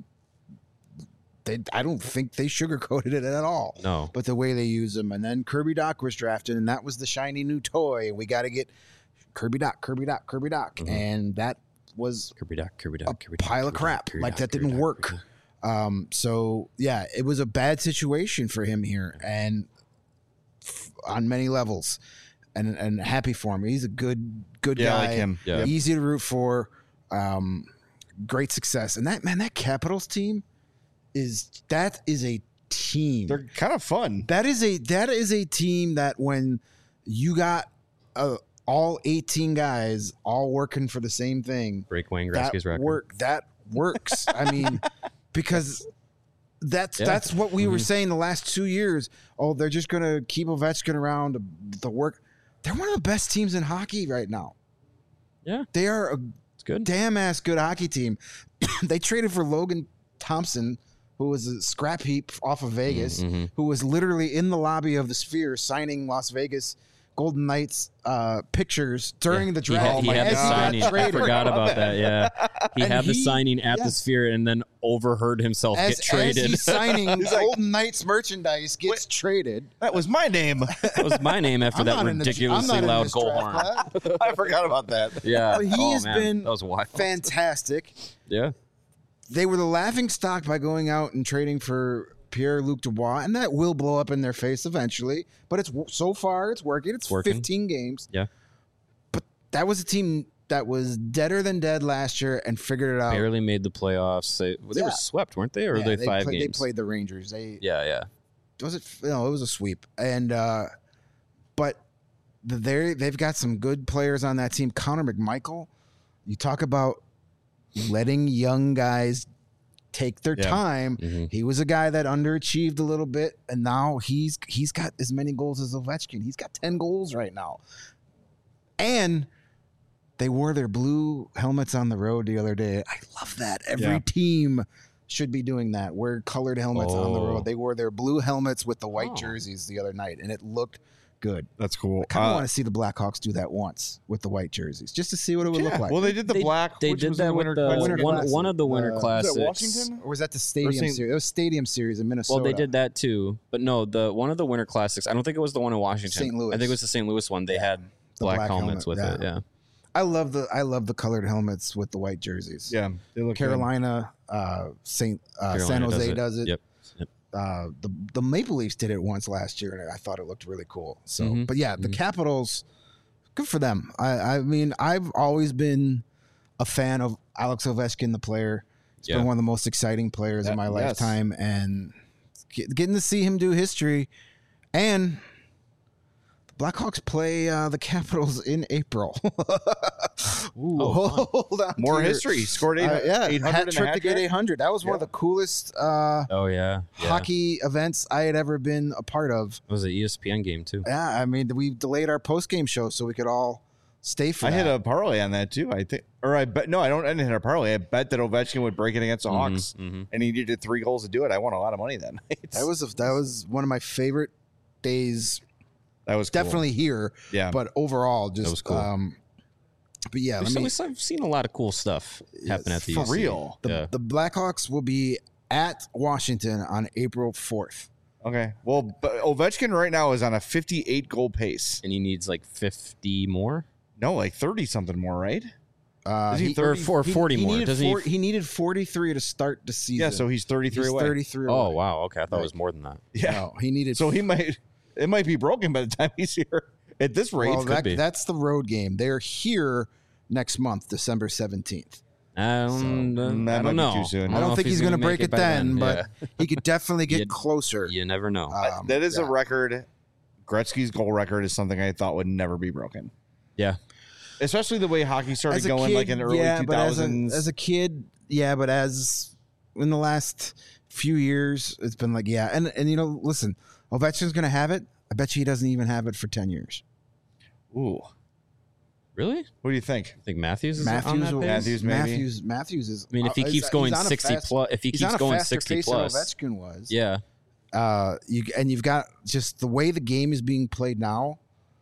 they, I don't think they sugarcoated it at all. No, But the way they use him, and then Kirby Doc was drafted, and that was the shiny new toy. We got to get Kirby Doc, Kirby Doc, Kirby Doc, Mhm. and that was Kirby Doc, Kirby a Doc, Kirby Doc, pile of Kirby Doc, crap. Kirby Like Doc, that Kirby didn't Doc, work. Kirby Doc. Um, so yeah, it was a bad situation for him here, and f- on many levels, and and happy for him. He's a good good Yeah, I guy. like him. Yeah. Yep. Easy to root for. Um, great success, and that man, that Capitals team is that is a team. They're kind of fun. That is a that is a team that when you got uh, all eighteen guys all working for the same thing, Break Wayne that Gretzky's record. work that works. I mean, because that's Yeah. that's what we were Mhm. saying the last two years. Oh, they're just gonna keep Ovechkin around to, to work. They're one of the best teams in hockey right now. Yeah. They are a It's good. damn ass good hockey team. They traded for Logan Thompson, who was a scrap heap off of Vegas, Mhm. who was literally in the lobby of the Sphere signing Las Vegas Golden Knights uh, pictures during the He draft. had, he had as the got signing. I traded. forgot about that. Yeah, he And had the he- signing at yeah. the Sphere, and then overheard himself As, get traded. as he's signing He's like- Golden Knights merchandise gets traded. That was my name. That was my name after I'm that not in the- I'm ridiculously not in loud this goal draft horn. class. I forgot about that. Yeah, He oh, has man. been that was wild. Fantastic. Yeah, They were the laughing stock by going out and trading for Pierre-Luc Dubois, and that will blow up in their face eventually. But it's so far it's working. It's Working. fifteen games. Yeah. But that was a team that was deader than dead last year and figured it out. barely made the playoffs. They, they Yeah. were swept, weren't they? Or Yeah, were they, five played, games? They played the Rangers. They Yeah, yeah. was it no, it was a sweep. And uh but they they've got some good players on that team. Connor McMichael, you talk about letting young guys take their Yeah. time. Mhm. He was a guy that underachieved a little bit, and now he's he's got as many goals as Ovechkin. He's got ten goals right now. And they wore their blue helmets on the road the other day. I love that. Every Yeah. team should be doing that. Wear colored helmets on the Oh. road. They wore their blue helmets with the white Oh. jerseys the other night, and it looked good. That's cool. I kind of Uh, want to see the Blackhawks do that once with the white jerseys, just to see what it would yeah. look like. Well, they did the They- black. They which did was that the with winter the Winter one, Classic. one of the Winter Uh, Classics. Was it Washington? or was that the Stadium Saint- Series? It was Stadium Series in Minnesota. Well, they did that too, but no, the one of the Winter Classics. I don't think it was the one in Washington. Saint Louis. I think it was the Saint Louis one. They had The black, black helmets helmet, with it. yeah. Yeah, I love the I love the colored helmets with the white jerseys. Yeah, they look good. Carolina, uh, Saint uh, San Carolina Jose does does it. it. Yep. Uh, the the Maple Leafs did it once last year, and I thought it looked really cool. So, Mhm. but yeah, the Mhm. Capitals, good for them. I, I mean, I've always been a fan of Alex Ovechkin, the player. He's Yeah. been one of the most exciting players Yeah, in my yes. lifetime, and get, getting to see him do history. And the Blackhawks play uh, the Capitals in April. Ooh, Oh, hold on. More to your- history. He scored eight, uh, yeah, eight hundred hat in a trick hat to get trick. eight hundred. That was one of Yeah. the coolest uh, Oh yeah, yeah. hockey events I had ever been a part of. It was an E S P N game too. Yeah, I mean, we delayed our post game show so we could all stay for I that. hit a parlay on that too. I think, or I bet no, I don't. I didn't hit a parlay. I bet that Ovechkin would break it against the Hawks, Mm-hmm. and he needed three goals to do it. I won a lot of money that night. that was a, that was one of my favorite days. that was cool. Definitely here, yeah. but overall, just was cool. um, but yeah, We've, let me, seen- I've seen a lot of cool stuff happen at the for U C. real. the, yeah. the Blackhawks will be at Washington on April fourth. Okay. Well, but Ovechkin right now is on a fifty-eight goal pace. And he needs like fifty more. No, like thirty something more, right? Uh, Is he he, thirty? Or for he- forty he more. Needed Doesn't four, he? he needed forty-three to start the season. Yeah. So he's thirty-three he's away. thirty-three. Oh away. wow. Okay, I thought Right. it was more than that. Yeah. No, he needed. So he might. It might be broken by the time he's here. At this rate, well, could that, be. that's the road game. They're here next month, December seventeenth. Um, So, uh, mm, that I might don't be know. too soon. I don't know think if he's going to gonna break make it then, but Yeah. he could definitely get You'd- closer. You never know. Um, that is yeah. a record. Gretzky's goal record is something I thought would never be broken. yeah. Especially the way hockey started As a going, kid, like in the early yeah, two but as a, thousands. as a kid, yeah, but as in the last few years, it's been like, yeah, and and you know, listen, Ovechkin's going to have it. I bet you he doesn't even have it for ten years. Ooh, Really? what do you think? I think Matthews is on Matthews, that will- pace? Matthews, maybe? Matthews, Matthews is. I mean, if he uh, keeps he's going on a sixty fast- plus, if he he's keeps on a going faster sixty pace than plus, Ovechkin was. yeah, Uh, you and you've got just the way the game is being played now.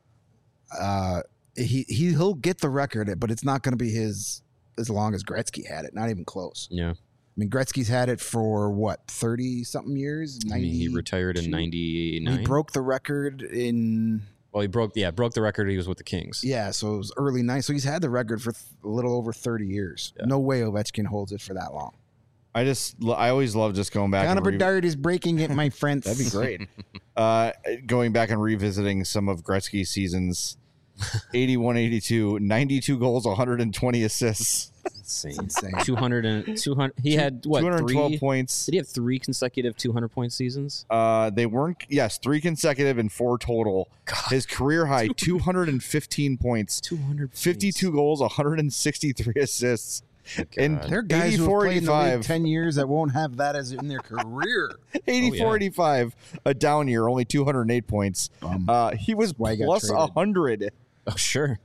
Uh, he he he'll get the record, but it's not going to be his as long as Gretzky had it. Not even close. yeah. I mean, Gretzky's had it for what thirty something years. I mean, he retired in ninety. ninety-nine. He broke the record in well, he broke, yeah, broke the record. He was with the Kings. yeah, so it was early nine. So he's had the record for th- a little over thirty years. Yeah. No way Ovechkin holds it for that long. I just, I always love just going back. Connor and re- Bedard is breaking it, my friends. That'd be great. uh, going back and revisiting some of Gretzky's seasons. eighty-one eighty-two, ninety-two goals, one hundred twenty assists, Insane. insane. two hundred and two hundred. He had what? two hundred twelve Three, points. did he have three consecutive two hundred point seasons? Uh, they weren't, yes, three consecutive and four total. His career high, two hundred fifteen points, two hundred. fifty-two goals, one hundred sixty-three assists. And There are guys who have eighty-four played in the league eighty-five. ten years that won't have that as in their career. eighty-four eighty-five, a down year, only two hundred eight points. Bum. Uh, he was why he got plus traded. one hundred. Oh sure.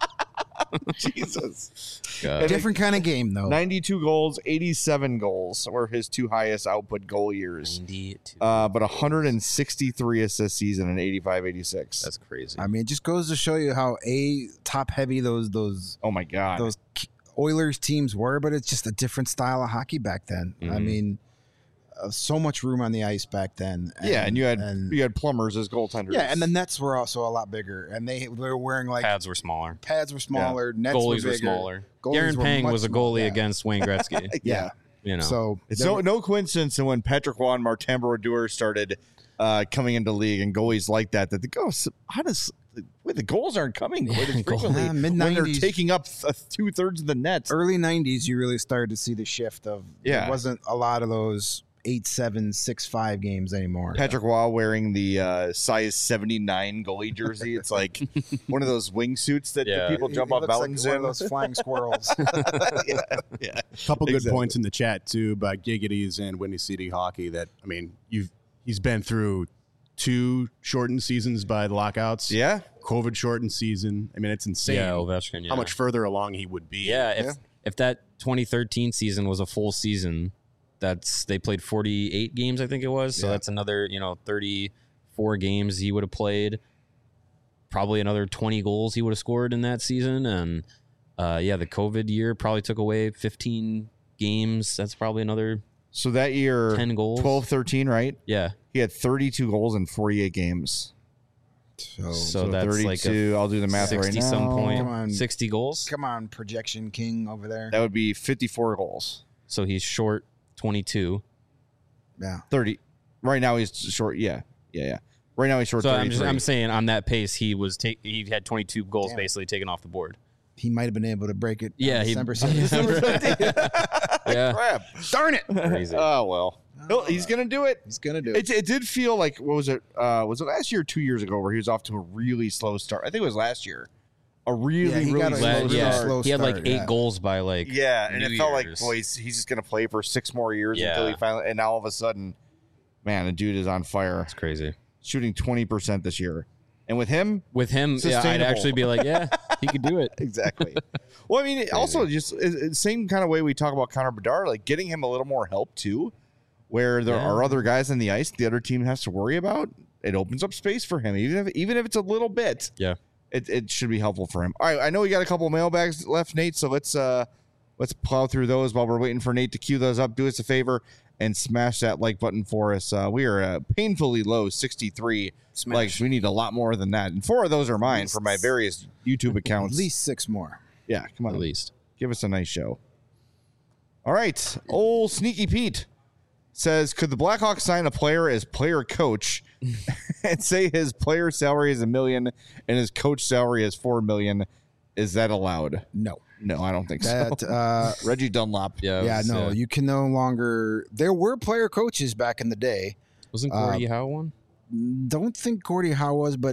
Jesus. God. Different kind of game, though. ninety-two goals, eighty-seven goals were his two highest output goal years. ninety-two. Uh, but one hundred sixty-three assists season in eighty-five eighty-six. That's crazy. I mean, it just goes to show you how a top heavy those those Oh my God. those Oilers teams were, but it's just a different style of hockey back then. I Mhm. mean, uh, so much room on the ice back then. yeah, and you had and- you had plumbers as goaltenders. yeah, and the nets were also a lot bigger, and they, they were wearing like Pads were smaller. pads were smaller, nets Goalies were were, bigger. smaller. Goalies Darren were Pang much was a smaller, goalie yeah. against Wayne Gretzky. Yeah. You know. So It's there no were- no coincidence that when Patrick Roy and Martin Brodeur started uh, coming into league and goalies like that, that the goals, how does wait, the goals aren't coming quite as Yeah, goal- frequently Yeah, when they're mid-nineties. taking up th- two thirds of the net. early nineties, you really started to see the shift of Yeah. there wasn't a lot of those eight seven six five games anymore. Patrick Roy wearing the uh, size seventy-nine goalie jersey. It's like one of those wingsuits that Yeah. the people He- jump he off looks like mountains one in. of those flying squirrels. yeah, yeah. Couple good Exactly. points in the chat too about Giggities and Windy City hockey. That I mean, you've he's been through two shortened seasons by the lockouts. Yeah. COVID shortened season. I mean, it's insane yeah, Ovechkin. Yeah. how much further along he would be. Yeah, if Yeah. if that twenty thirteen season was a full season, that's they played forty-eight games, I think it was. So Yeah. that's another, you know, thirty-four games he would have played. Probably another twenty goals he would have scored in that season. And uh, yeah, the COVID year probably took away fifteen games. That's probably another So that year, ten goals. twelve thirteen, right? Yeah. He had thirty-two goals in forty-eight games. So, So, that's like thirty-two. a I'll do the math right sixty now. some point. Come on. sixty goals. come on, projection king over there. That would be fifty-four goals. So he's short twenty-two. Yeah. thirty. Right now he's short. Yeah, yeah, yeah. Right now he's short. So I'm, just, thirty-three. I'm saying on that pace, he was ta- he had twenty-two goals Damn. basically taken off the board. He might have been able to break it. Yeah, on he- December seventeenth. Yeah, Crap. Darn it! crazy. Oh well. He'll, he's gonna do it. He's gonna do it. It, it did feel like what was it? Uh, was it last year or two years ago where he was off to a really slow start? I think it was last year. A really Yeah, he really got a slow La- really yeah, start. slow he had like start, eight yeah. goals by like Yeah, and New it felt like Year's. boy, he's, he's just gonna play for six more years Yeah. until he finally. And now all of a sudden, man, the dude is on fire, It's crazy. shooting twenty percent this year. And with him, With him, yeah, I'd Sustainable. actually be like, yeah, he could do it. exactly. Well, I mean, it also just it- it's same kind of way we talk about Connor Bedard, like getting him a little more help too, where there Yeah. are other guys on the ice the other team has to worry about. It opens up space for him, even if even if it's a little bit. Yeah. It, it should be helpful for him. All right, I know we got a couple of mailbags left, Nate. So let's uh let's plow through those while we're waiting for Nate to queue those up. Do us a favor and smash that like button for us. Uh, we are uh, painfully low, sixty-three Smash. likes. We need a lot more than that, and four of those are mine for my various YouTube At accounts. least six more. Yeah, come on, At least. give us a nice show. All right, old Sneaky Pete says, could the Blackhawks sign a player as player coach and say his player salary is a million and his coach salary is four million? Is that allowed? No. No, I don't think That so. uh Reggie Dunlop. Yeah. it yeah, was, no, uh, you can no longer there were player coaches back in the day. wasn't uh, Gordie Howe one? Don't think Gordie Howe was, but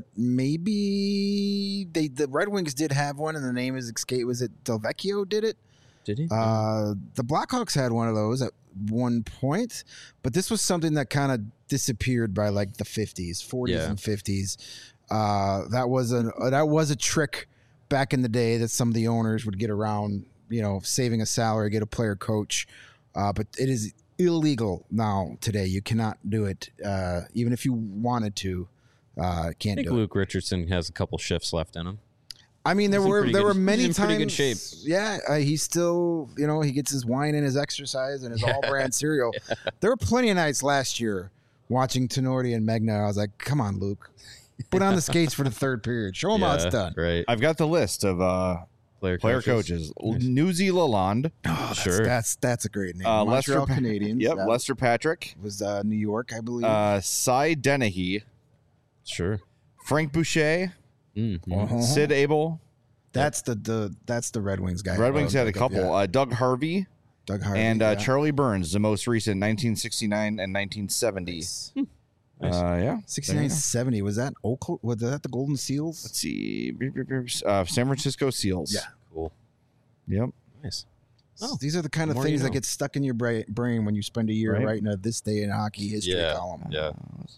maybe they the Red Wings did have one, and the name is escape. Was it Delvecchio did it? Did he? Uh, the Blackhawks had one of those at one point, but this was something that kind of disappeared by like the fifties, forties, Yeah. and fifties. Uh, that was a that was a trick back in the day that some of the owners would get around, you know, saving a salary, get a player coach. Uh, but it is illegal now today. You cannot do it, uh, even if you wanted to. Uh, I can't think do it. Luke Richardson has a couple shifts left in him. I mean, there He's in were pretty there good- were many he's in times. pretty good shape. Yeah, uh, he's still, you know, he gets his wine and his exercise and his all brand cereal. There were plenty of nights last year watching Tenorti and Megna. I was like, come on, Luke, put on the skates for the third period. Show him how it's done. Right. I've got the list of uh, Player, player coaches. Newsy Lalonde. Oh, that's, Sure. that's that's a great name. Uh, Montreal Lester Pa- Canadiens. Yep, That Lester Patrick. was uh, New York, I believe. Uh, Cy Dennehy. Sure. Frank Boucher. Mm, mm. Uh-huh. Sid Abel. That's the, the that's the Red Wings guy. Red Wings Oh, had a Doug- couple. yeah. Uh, Doug Harvey. Doug Harvey and uh, yeah. Charlie Burns, the most recent, nineteen sixty-nine and nineteen seventy. Nice. Uh, yeah. sixty-nine seventy. Was that Oakland? Was that the Golden Seals? Let's see. Uh, San Francisco Seals. Yeah. Cool. Yep. Nice. Oh, these are the kind of more things you that know. get stuck in your bra- brain when you spend a year Right. writing a this day in hockey history Yeah. column. Yeah.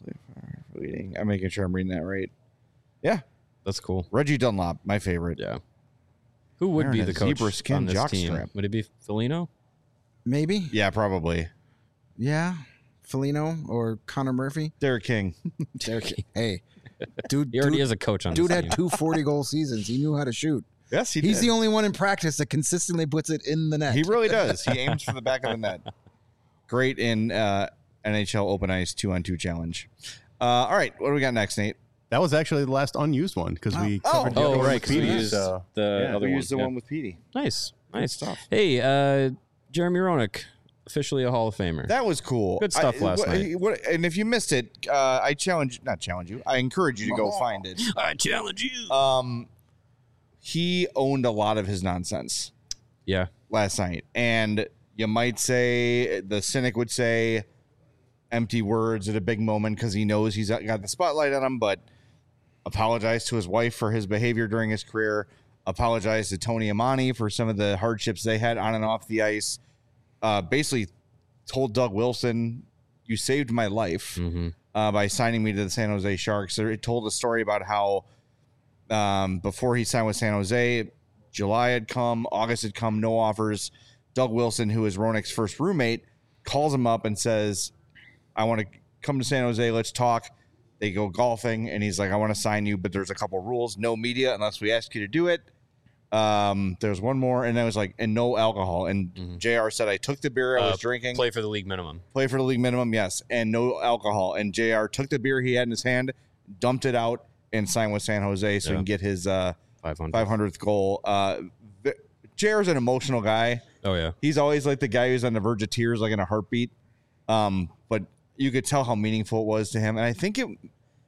Reading. I'm making sure I'm reading that right. Yeah. That's cool. Reggie Dunlop, my favorite. Yeah. Who would Wearing be a the coach zebra skin on this team? jockstrap. Would it be Foligno? Maybe. Yeah, probably. Yeah. Foligno or Connor Murphy. Derek King. Derek. Hey, dude. He already dude, is a coach on dude this had team. two forty goal seasons. He knew how to shoot. Yes, he He's did. the only one in practice that consistently puts it in the net. He really does. He aims for the back of the net. Great in uh, N H L Open Ice two on two challenge. Uh, all right, what do we got next, Nate? That was actually the last unused one because we Oh. covered the Oh, other one right. with Because we Petey, used so- the Yeah, other we one. used the Yeah. one with Petey. Nice. Nice stuff. Hey, uh, Jeremy Roenick, officially a Hall of Famer. That was cool. Good stuff I- last what- night. what- and if you missed it, uh, I challenge, not challenge you, I encourage you to go find it. I challenge you. Um, he owned a lot of his nonsense yeah. last night, and you might say the cynic would say empty words at a big moment because he knows he's got the spotlight on him, but apologize to his wife for his behavior during his career, apologize to Tony Amani for some of the hardships they had on and off the ice, uh, basically told Doug Wilson, you saved my life Mm-hmm. uh, by signing me to the San Jose Sharks. So it told a story about how um, before he signed with San Jose, July had come, August had come, no offers. Doug Wilson, who is Roenick's first roommate, calls him up and says, I want to come to San Jose. Let's talk. They go golfing, and he's like, I want to sign you, but there's a couple rules. No media unless we ask you to do it. Um, there's one more, and I was like, and no alcohol. And Mhm. J R said, I took the beer I was Uh, drinking. Play for the league minimum. Play for the league minimum, yes, and no alcohol. And J R took the beer he had in his hand, dumped it out, and signed with San Jose so he Yeah. can get his uh, five hundred. five hundredth goal. Uh, J R's an emotional guy. Oh, yeah. He's always like the guy who's on the verge of tears, like in a heartbeat. Um, but you could tell how meaningful it was to him. And I think it,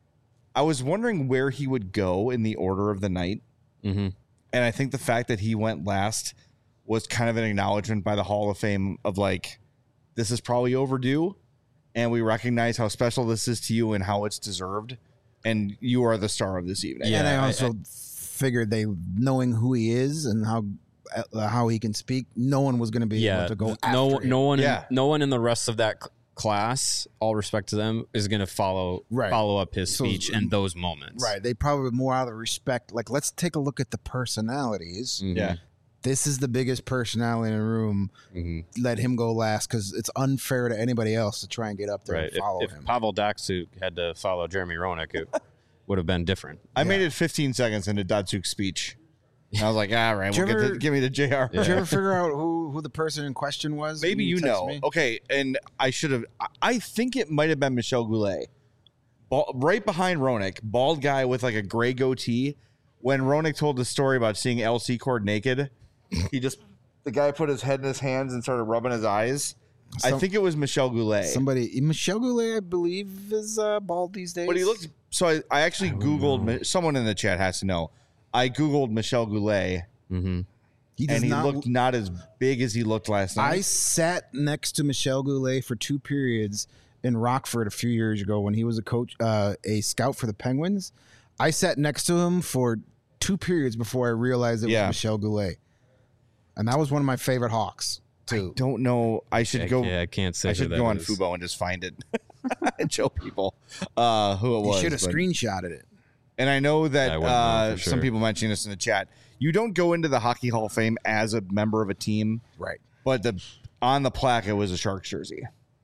I was wondering where he would go in the order of the night. Mm-hmm. And I think the fact that he went last was kind of an acknowledgement by the Hall of Fame of like, this is probably overdue. And we recognize how special this is to you and how it's deserved. And you are the star of this evening. Yeah, and I I- also I- figured they, knowing who he is and how uh, how he can speak, no one was going to be Yeah, able to go th- after no, him. no one, Yeah. no one in the rest of that c- class, all respect to them, is going to follow Right. follow up his So- speech in those moments. Right. They probably more out of respect. Like, let's take a look at the personalities. Mhm. Yeah. This is the biggest personality in the room. Mhm. Let him go last because it's unfair to anybody else to try and get up there Right. and If, follow if him. Pavel Datsuk had to follow Jeremy Roenick, it would have been different. I Yeah. made it fifteen seconds into Datsuk's speech. And I was like, all right, Did we'll you get ever- the, give me the J R. Did you ever figure out who, who the person in question was? Maybe when you text know. me? Okay, and I should have. I- I think it might have been Michel Goulet, Bal- right behind Roenick, bald guy with like a gray goatee. When Roenick told the story about seeing L C Cord naked, he just the guy put his head in his hands and started rubbing his eyes. I Some- think it was Michel Goulet, Somebody, Michel Goulet, I believe, is uh, bald these days. but he looked. So I, I actually googled. Mi- Someone in the chat has to know. I googled Michel Goulet, Mm-hmm. He does and he not looked not as big as he looked last night. I sat next to Michel Goulet for two periods in Rockford a few years ago when he was a coach, uh, a scout for the Penguins. I sat next to him for two periods before I realized it Yeah. was Michel Goulet, and that was one of my favorite Hawks too. don't know. I should I, go. yeah, I can't say. I who should that go on is. Fubo and just find it and show people uh, who it He was. should have but- screenshotted it. And I know that Yeah, I wouldn't know uh, for some sure. people mentioning this in the chat. You don't go into the Hockey Hall of Fame as a member of a team, Right. but the on the plaque it was a Sharks jersey.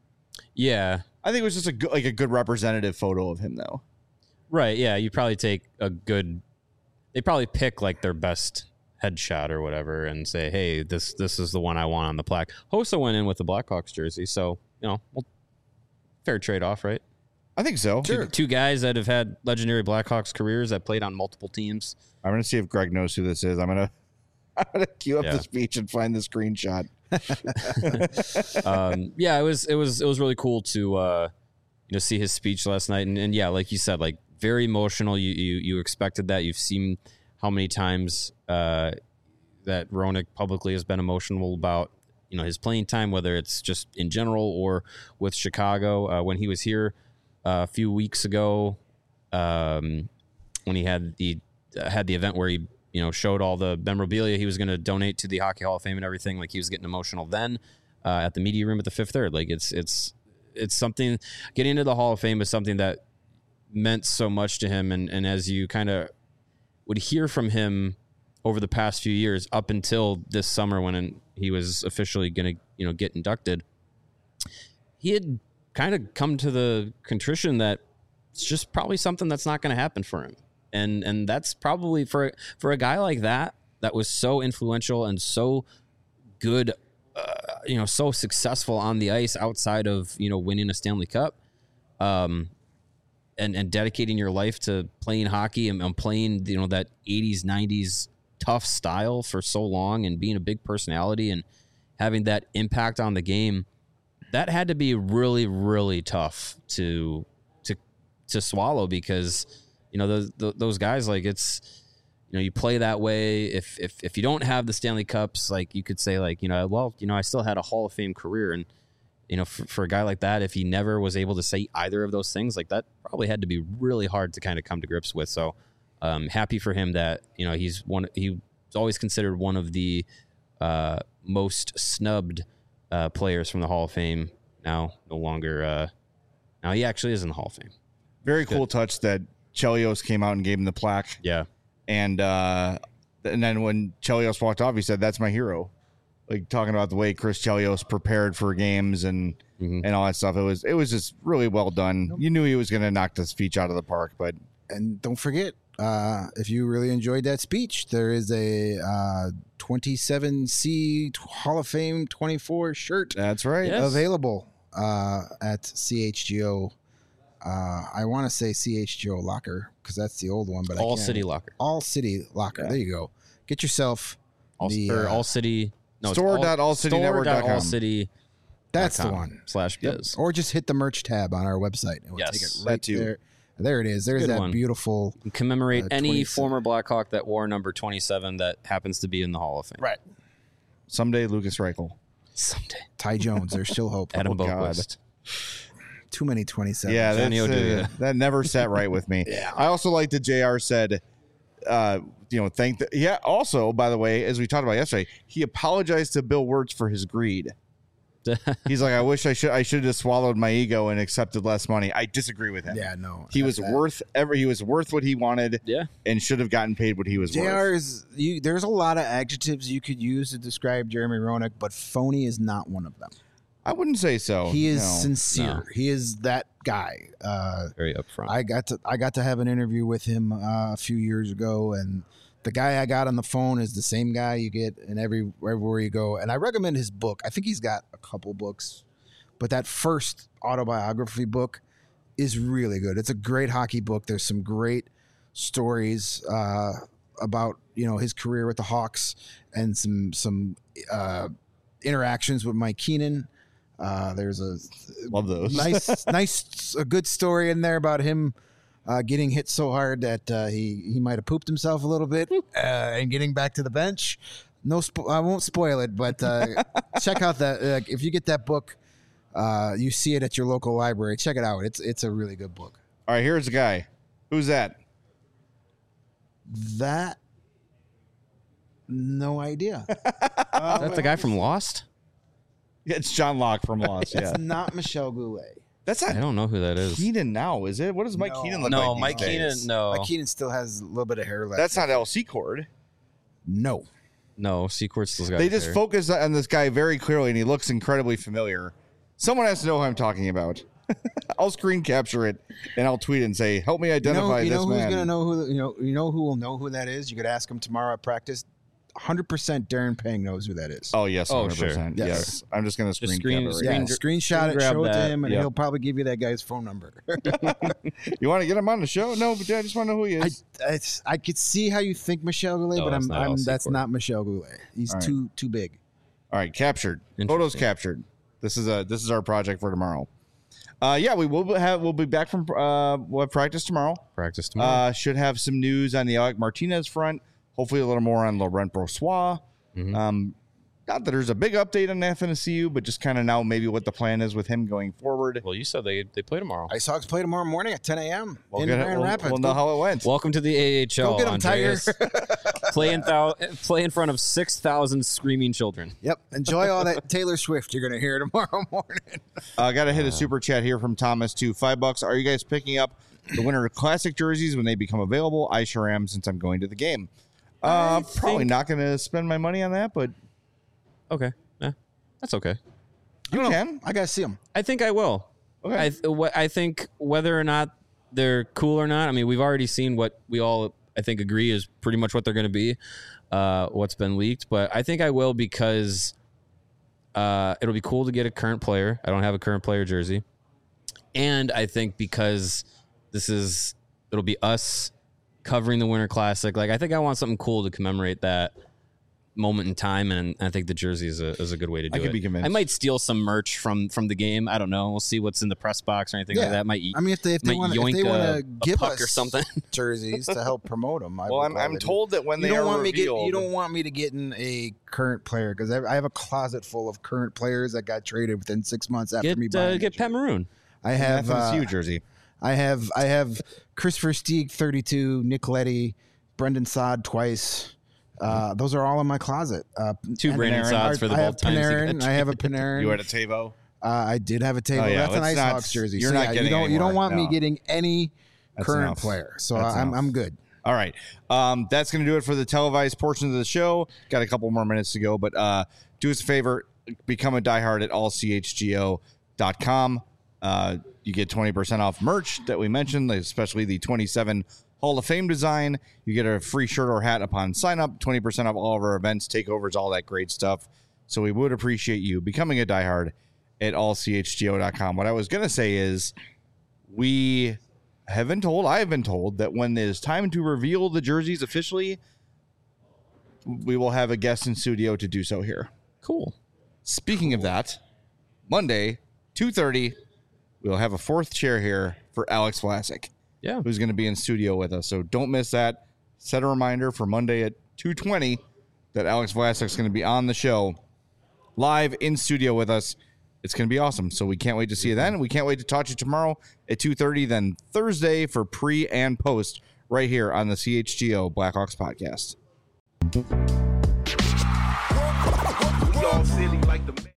Yeah. I think it was just a good, like a good representative photo of him, though. Right. Yeah. You probably take a good. They probably pick like their best headshot or whatever, and say, "Hey, this this is the one I want on the plaque." Hossa went in with the Blackhawks jersey, so you know, well, fair trade off, right? I think so. Two, two guys that have had legendary Blackhawks careers that played on multiple teams. I'm gonna see if Greg knows who this is. I'm gonna I'm gonna queue up Yeah. the speech and find the screenshot. um, yeah, it was it was it was really cool to uh, you know see his speech last night, and, and yeah, like you said, like very emotional. You you you expected that. You've seen how many times uh, that Roenick publicly has been emotional about you know his playing time, whether it's just in general or with Chicago. Uh, when he was here uh, a few weeks ago, um, when he had the uh, had the event where he you know showed all the memorabilia he was going to donate to the Hockey Hall of Fame and everything, like he was getting emotional then uh, at the media room at the Fifth Third. Like it's it's it's something. Getting into the Hall of Fame is something that meant so much to him, and and as you kind of would hear from him over the past few years up until this summer when he was officially going to you know get inducted, he had kind of come to the contrition that it's just probably something that's not going to happen for him. And and that's probably for for a guy like that that was so influential and so good, uh, you know, so successful on the ice outside of you know winning a Stanley Cup, um, and and dedicating your life to playing hockey and, and playing you know that eighties nineties tough style for so long and being a big personality and having that impact on the game. That had to be really really tough to to to swallow because. You know, those those guys, like it's, you know, you play that way. If if if you don't have the Stanley Cups, like you could say, like, you know, well, you know, I still had a Hall of Fame career. And, you know, for, for a guy like that, if he never was able to say either of those things, like that probably had to be really hard to kind of come to grips with. So um, happy for him that, you know, he's one, he's always considered one of the uh, most snubbed uh, players from the Hall of Fame. Now, no longer, uh, now he actually is in the Hall of Fame. Very cool touch that Chelios came out and gave him the plaque. Yeah. And uh, and then when Chelios walked off, he said, "That's my hero." Like talking about the way Chris Chelios prepared for games and Mhm. and all that stuff. It was it was just really well done. You knew he was going to knock this speech out of the park, but And don't forget, uh, if you really enjoyed that speech, there is a uh, twenty-seven C Hall of Fame twenty-four shirt that's right. Yeah. Yes. available uh, at C H G O. Uh, I want to say C H G O Locker because that's the old one, but I All can't. City Locker. All City Locker. Yeah. There you go. Get yourself All, the or uh, all city no, it's Store dot all city network dot com. store dot all city That's the one. Slash biz. Or just hit the merch tab on our website. And we'll Yes, take it that right too. there. There it is. There's Good that one. beautiful. Commemorate Uh, any twenty-seven. former Blackhawk that wore number twenty-seven that happens to be in the Hall of Fame. Right. Someday, Lucas Reichel. Someday. Ty Jones. There's still hope. Adam Oh, God. Boquist. Too many twenty-seven. Yeah, that's, Johnny uh, Oduya. that never sat right with me. Yeah. I also like that J R said, uh, you know, thank the, yeah. Also, by the way, as we talked about yesterday, he apologized to Bill Wirtz for his greed. He's like, I wish I should I should have just swallowed my ego and accepted less money. I disagree with him. Yeah, no. He was that- worth every he was worth what he wanted Yeah. and should have gotten paid what he was J worth. R is you. There's a lot of adjectives you could use to describe Jeremy Roenick, but phony is not one of them. I wouldn't say so. he is no. sincere. No. He is that guy. Uh, Very upfront. I got to I got to have an interview with him uh, a few years ago, and the guy I got on the phone is the same guy you get in every everywhere you go. And I recommend his book. I think he's got a couple books, but that first autobiography book is really good. It's a great hockey book. There's some great stories uh, about you know his career with the Hawks and some some uh, interactions with Mike Keenan. Uh, there's a Love those. nice, nice, a good story in there about him uh, getting hit so hard that uh, he he might have pooped himself a little bit uh, and getting back to the bench. No, spo- I won't spoil it, but uh, check out that. Uh, if you get that book, uh, you see it at your local library. Check it out. It's it's a really good book. All right, here's the guy. Who's that? That, no idea. Is that the guy from Lost? Yeah, it's John Locke from Lost. Yeah, It's not Michelle Goulet. that's I not don't know who that is. Keenan now, is it? What does Mike No. Keenan look like? No, these Mike days? Keenan. No, Mike Keenan still has a little bit of hair left. That's not L C Cord. No. no. Sequart still's got. They his just hair. focus on this guy very clearly, and he looks incredibly familiar. Someone has to know who I'm talking about. I'll screen capture it and I'll tweet it and say, "Help me You know, identify you know this who's man." gonna know who you know you know who will know who that is. You could ask him tomorrow at practice. one hundred percent Darren Pang knows who that is. Oh yes, Oh, one hundred percent. sure. Yes. Yes. I'm just gonna screen, screen- capture it. yeah, screen- screenshot screen it, grab show it to that, him, and yep. he'll probably give you that guy's phone number. You want to get him on the show? No, but I just want to know who he I, is. I I could see how you think Michelle Goulet, No, but it's I'm, not I'm Elsie that's Court. not Michelle Goulet. He's All right. too too big. All right, captured. Interesting. Photos captured. This is a this is our project for tomorrow. Uh, yeah, we will have we'll be back from uh we'll have practice tomorrow. practice tomorrow. Uh, should have some news on the Alec Martinez front. Hopefully, a little more on Laurent Brossois. Mhm. Um, not that there's a big update on F N C U, but just kind of now maybe what the plan is with him going forward. well, you said they they play tomorrow. Ice Hawks play tomorrow morning at ten a.m. We'll, in get it- Grand we'll- Rapids. we'll know how it went. Welcome to the A H L. Go get 'em, Andreas. Tiger. play in thou- play in front of six thousand screaming children. Yep. Enjoy all that Taylor Swift you're gonna hear tomorrow morning. I uh, got to hit a super chat here from Thomas too. Five bucks. Are you guys picking up the Winter Classic jerseys when they become available? I sure am, since I'm going to the game. Uh, I probably think- not going to spend my money on that, but Okay, yeah, that's okay. you can. I gotta see him. I think I will. Okay. I th- wh- I think whether or not they're cool or not. I mean, we've already seen what we all I think agree is pretty much what they're going to be. Uh, what's been leaked, but I think I will because uh, it'll be cool to get a current player. I don't have a current player jersey, and I think because this is it'll be us covering the Winter Classic. Like I think I want something cool to commemorate that moment in time, and I think the jersey is a is a good way to do I could it. be convinced. I might steal some merch from from the game. I don't know. We'll see what's in the press box or anything Yeah. like that. Might eat. I mean, if they if they Might want if yoink they want a- to a give puck us or something. jerseys to help promote them, I Well, would I'm, I'm gladly do. told that when You they don't are want me get revealed, you don't want me to get in a current player because I, I have a closet full of current players that got traded within six months after Get me uh, buying. get the Pat jersey. Maroon. I have F N C U uh, jersey. I have I have Christopher Stieg thirty-two, Nick Letty, Brendan Saad twice. Uh, those are all in my closet. Uh, Two and Brandon Panarin. Sods for the I have both times. he got Panarin. I have a Panarin. You had a Tavo. Uh, I did have a table. Oh, yeah, That's an let's Ice not- Hawks jersey. you're so not yeah, you getting don't you anymore. don't want me No. getting any That's current enough. player. So That's I'm enough. I'm good. All right. Um, that's going to do it for the televised portion of the show. Got a couple more minutes to go, but uh, do us a favor. Become a diehard at all c h g o dot com. Uh, you get twenty percent off merch that we mentioned, especially the twenty-seven Hall of Fame design. You get a free shirt or hat upon sign up, twenty percent off all of our events, takeovers, all that great stuff. So we would appreciate you becoming a diehard at all c h g o dot com. What I was going to say is we have been told, I have been told, that when it is time to reveal the jerseys officially, we will have a guest in studio to do so here. Cool. Speaking of that, Monday, two thirty, we'll have a fourth chair here for Alex Vlasic, Yeah. who's going to be in studio with us. So don't miss that. Set a reminder for Monday at two twenty that Alex Vlasic is going to be on the show live in studio with us. It's going to be awesome. So we can't wait to see you then. We can't wait to talk to you tomorrow at two thirty, then Thursday for pre and post right here on the C H G O Blackhawks podcast. We all silly like the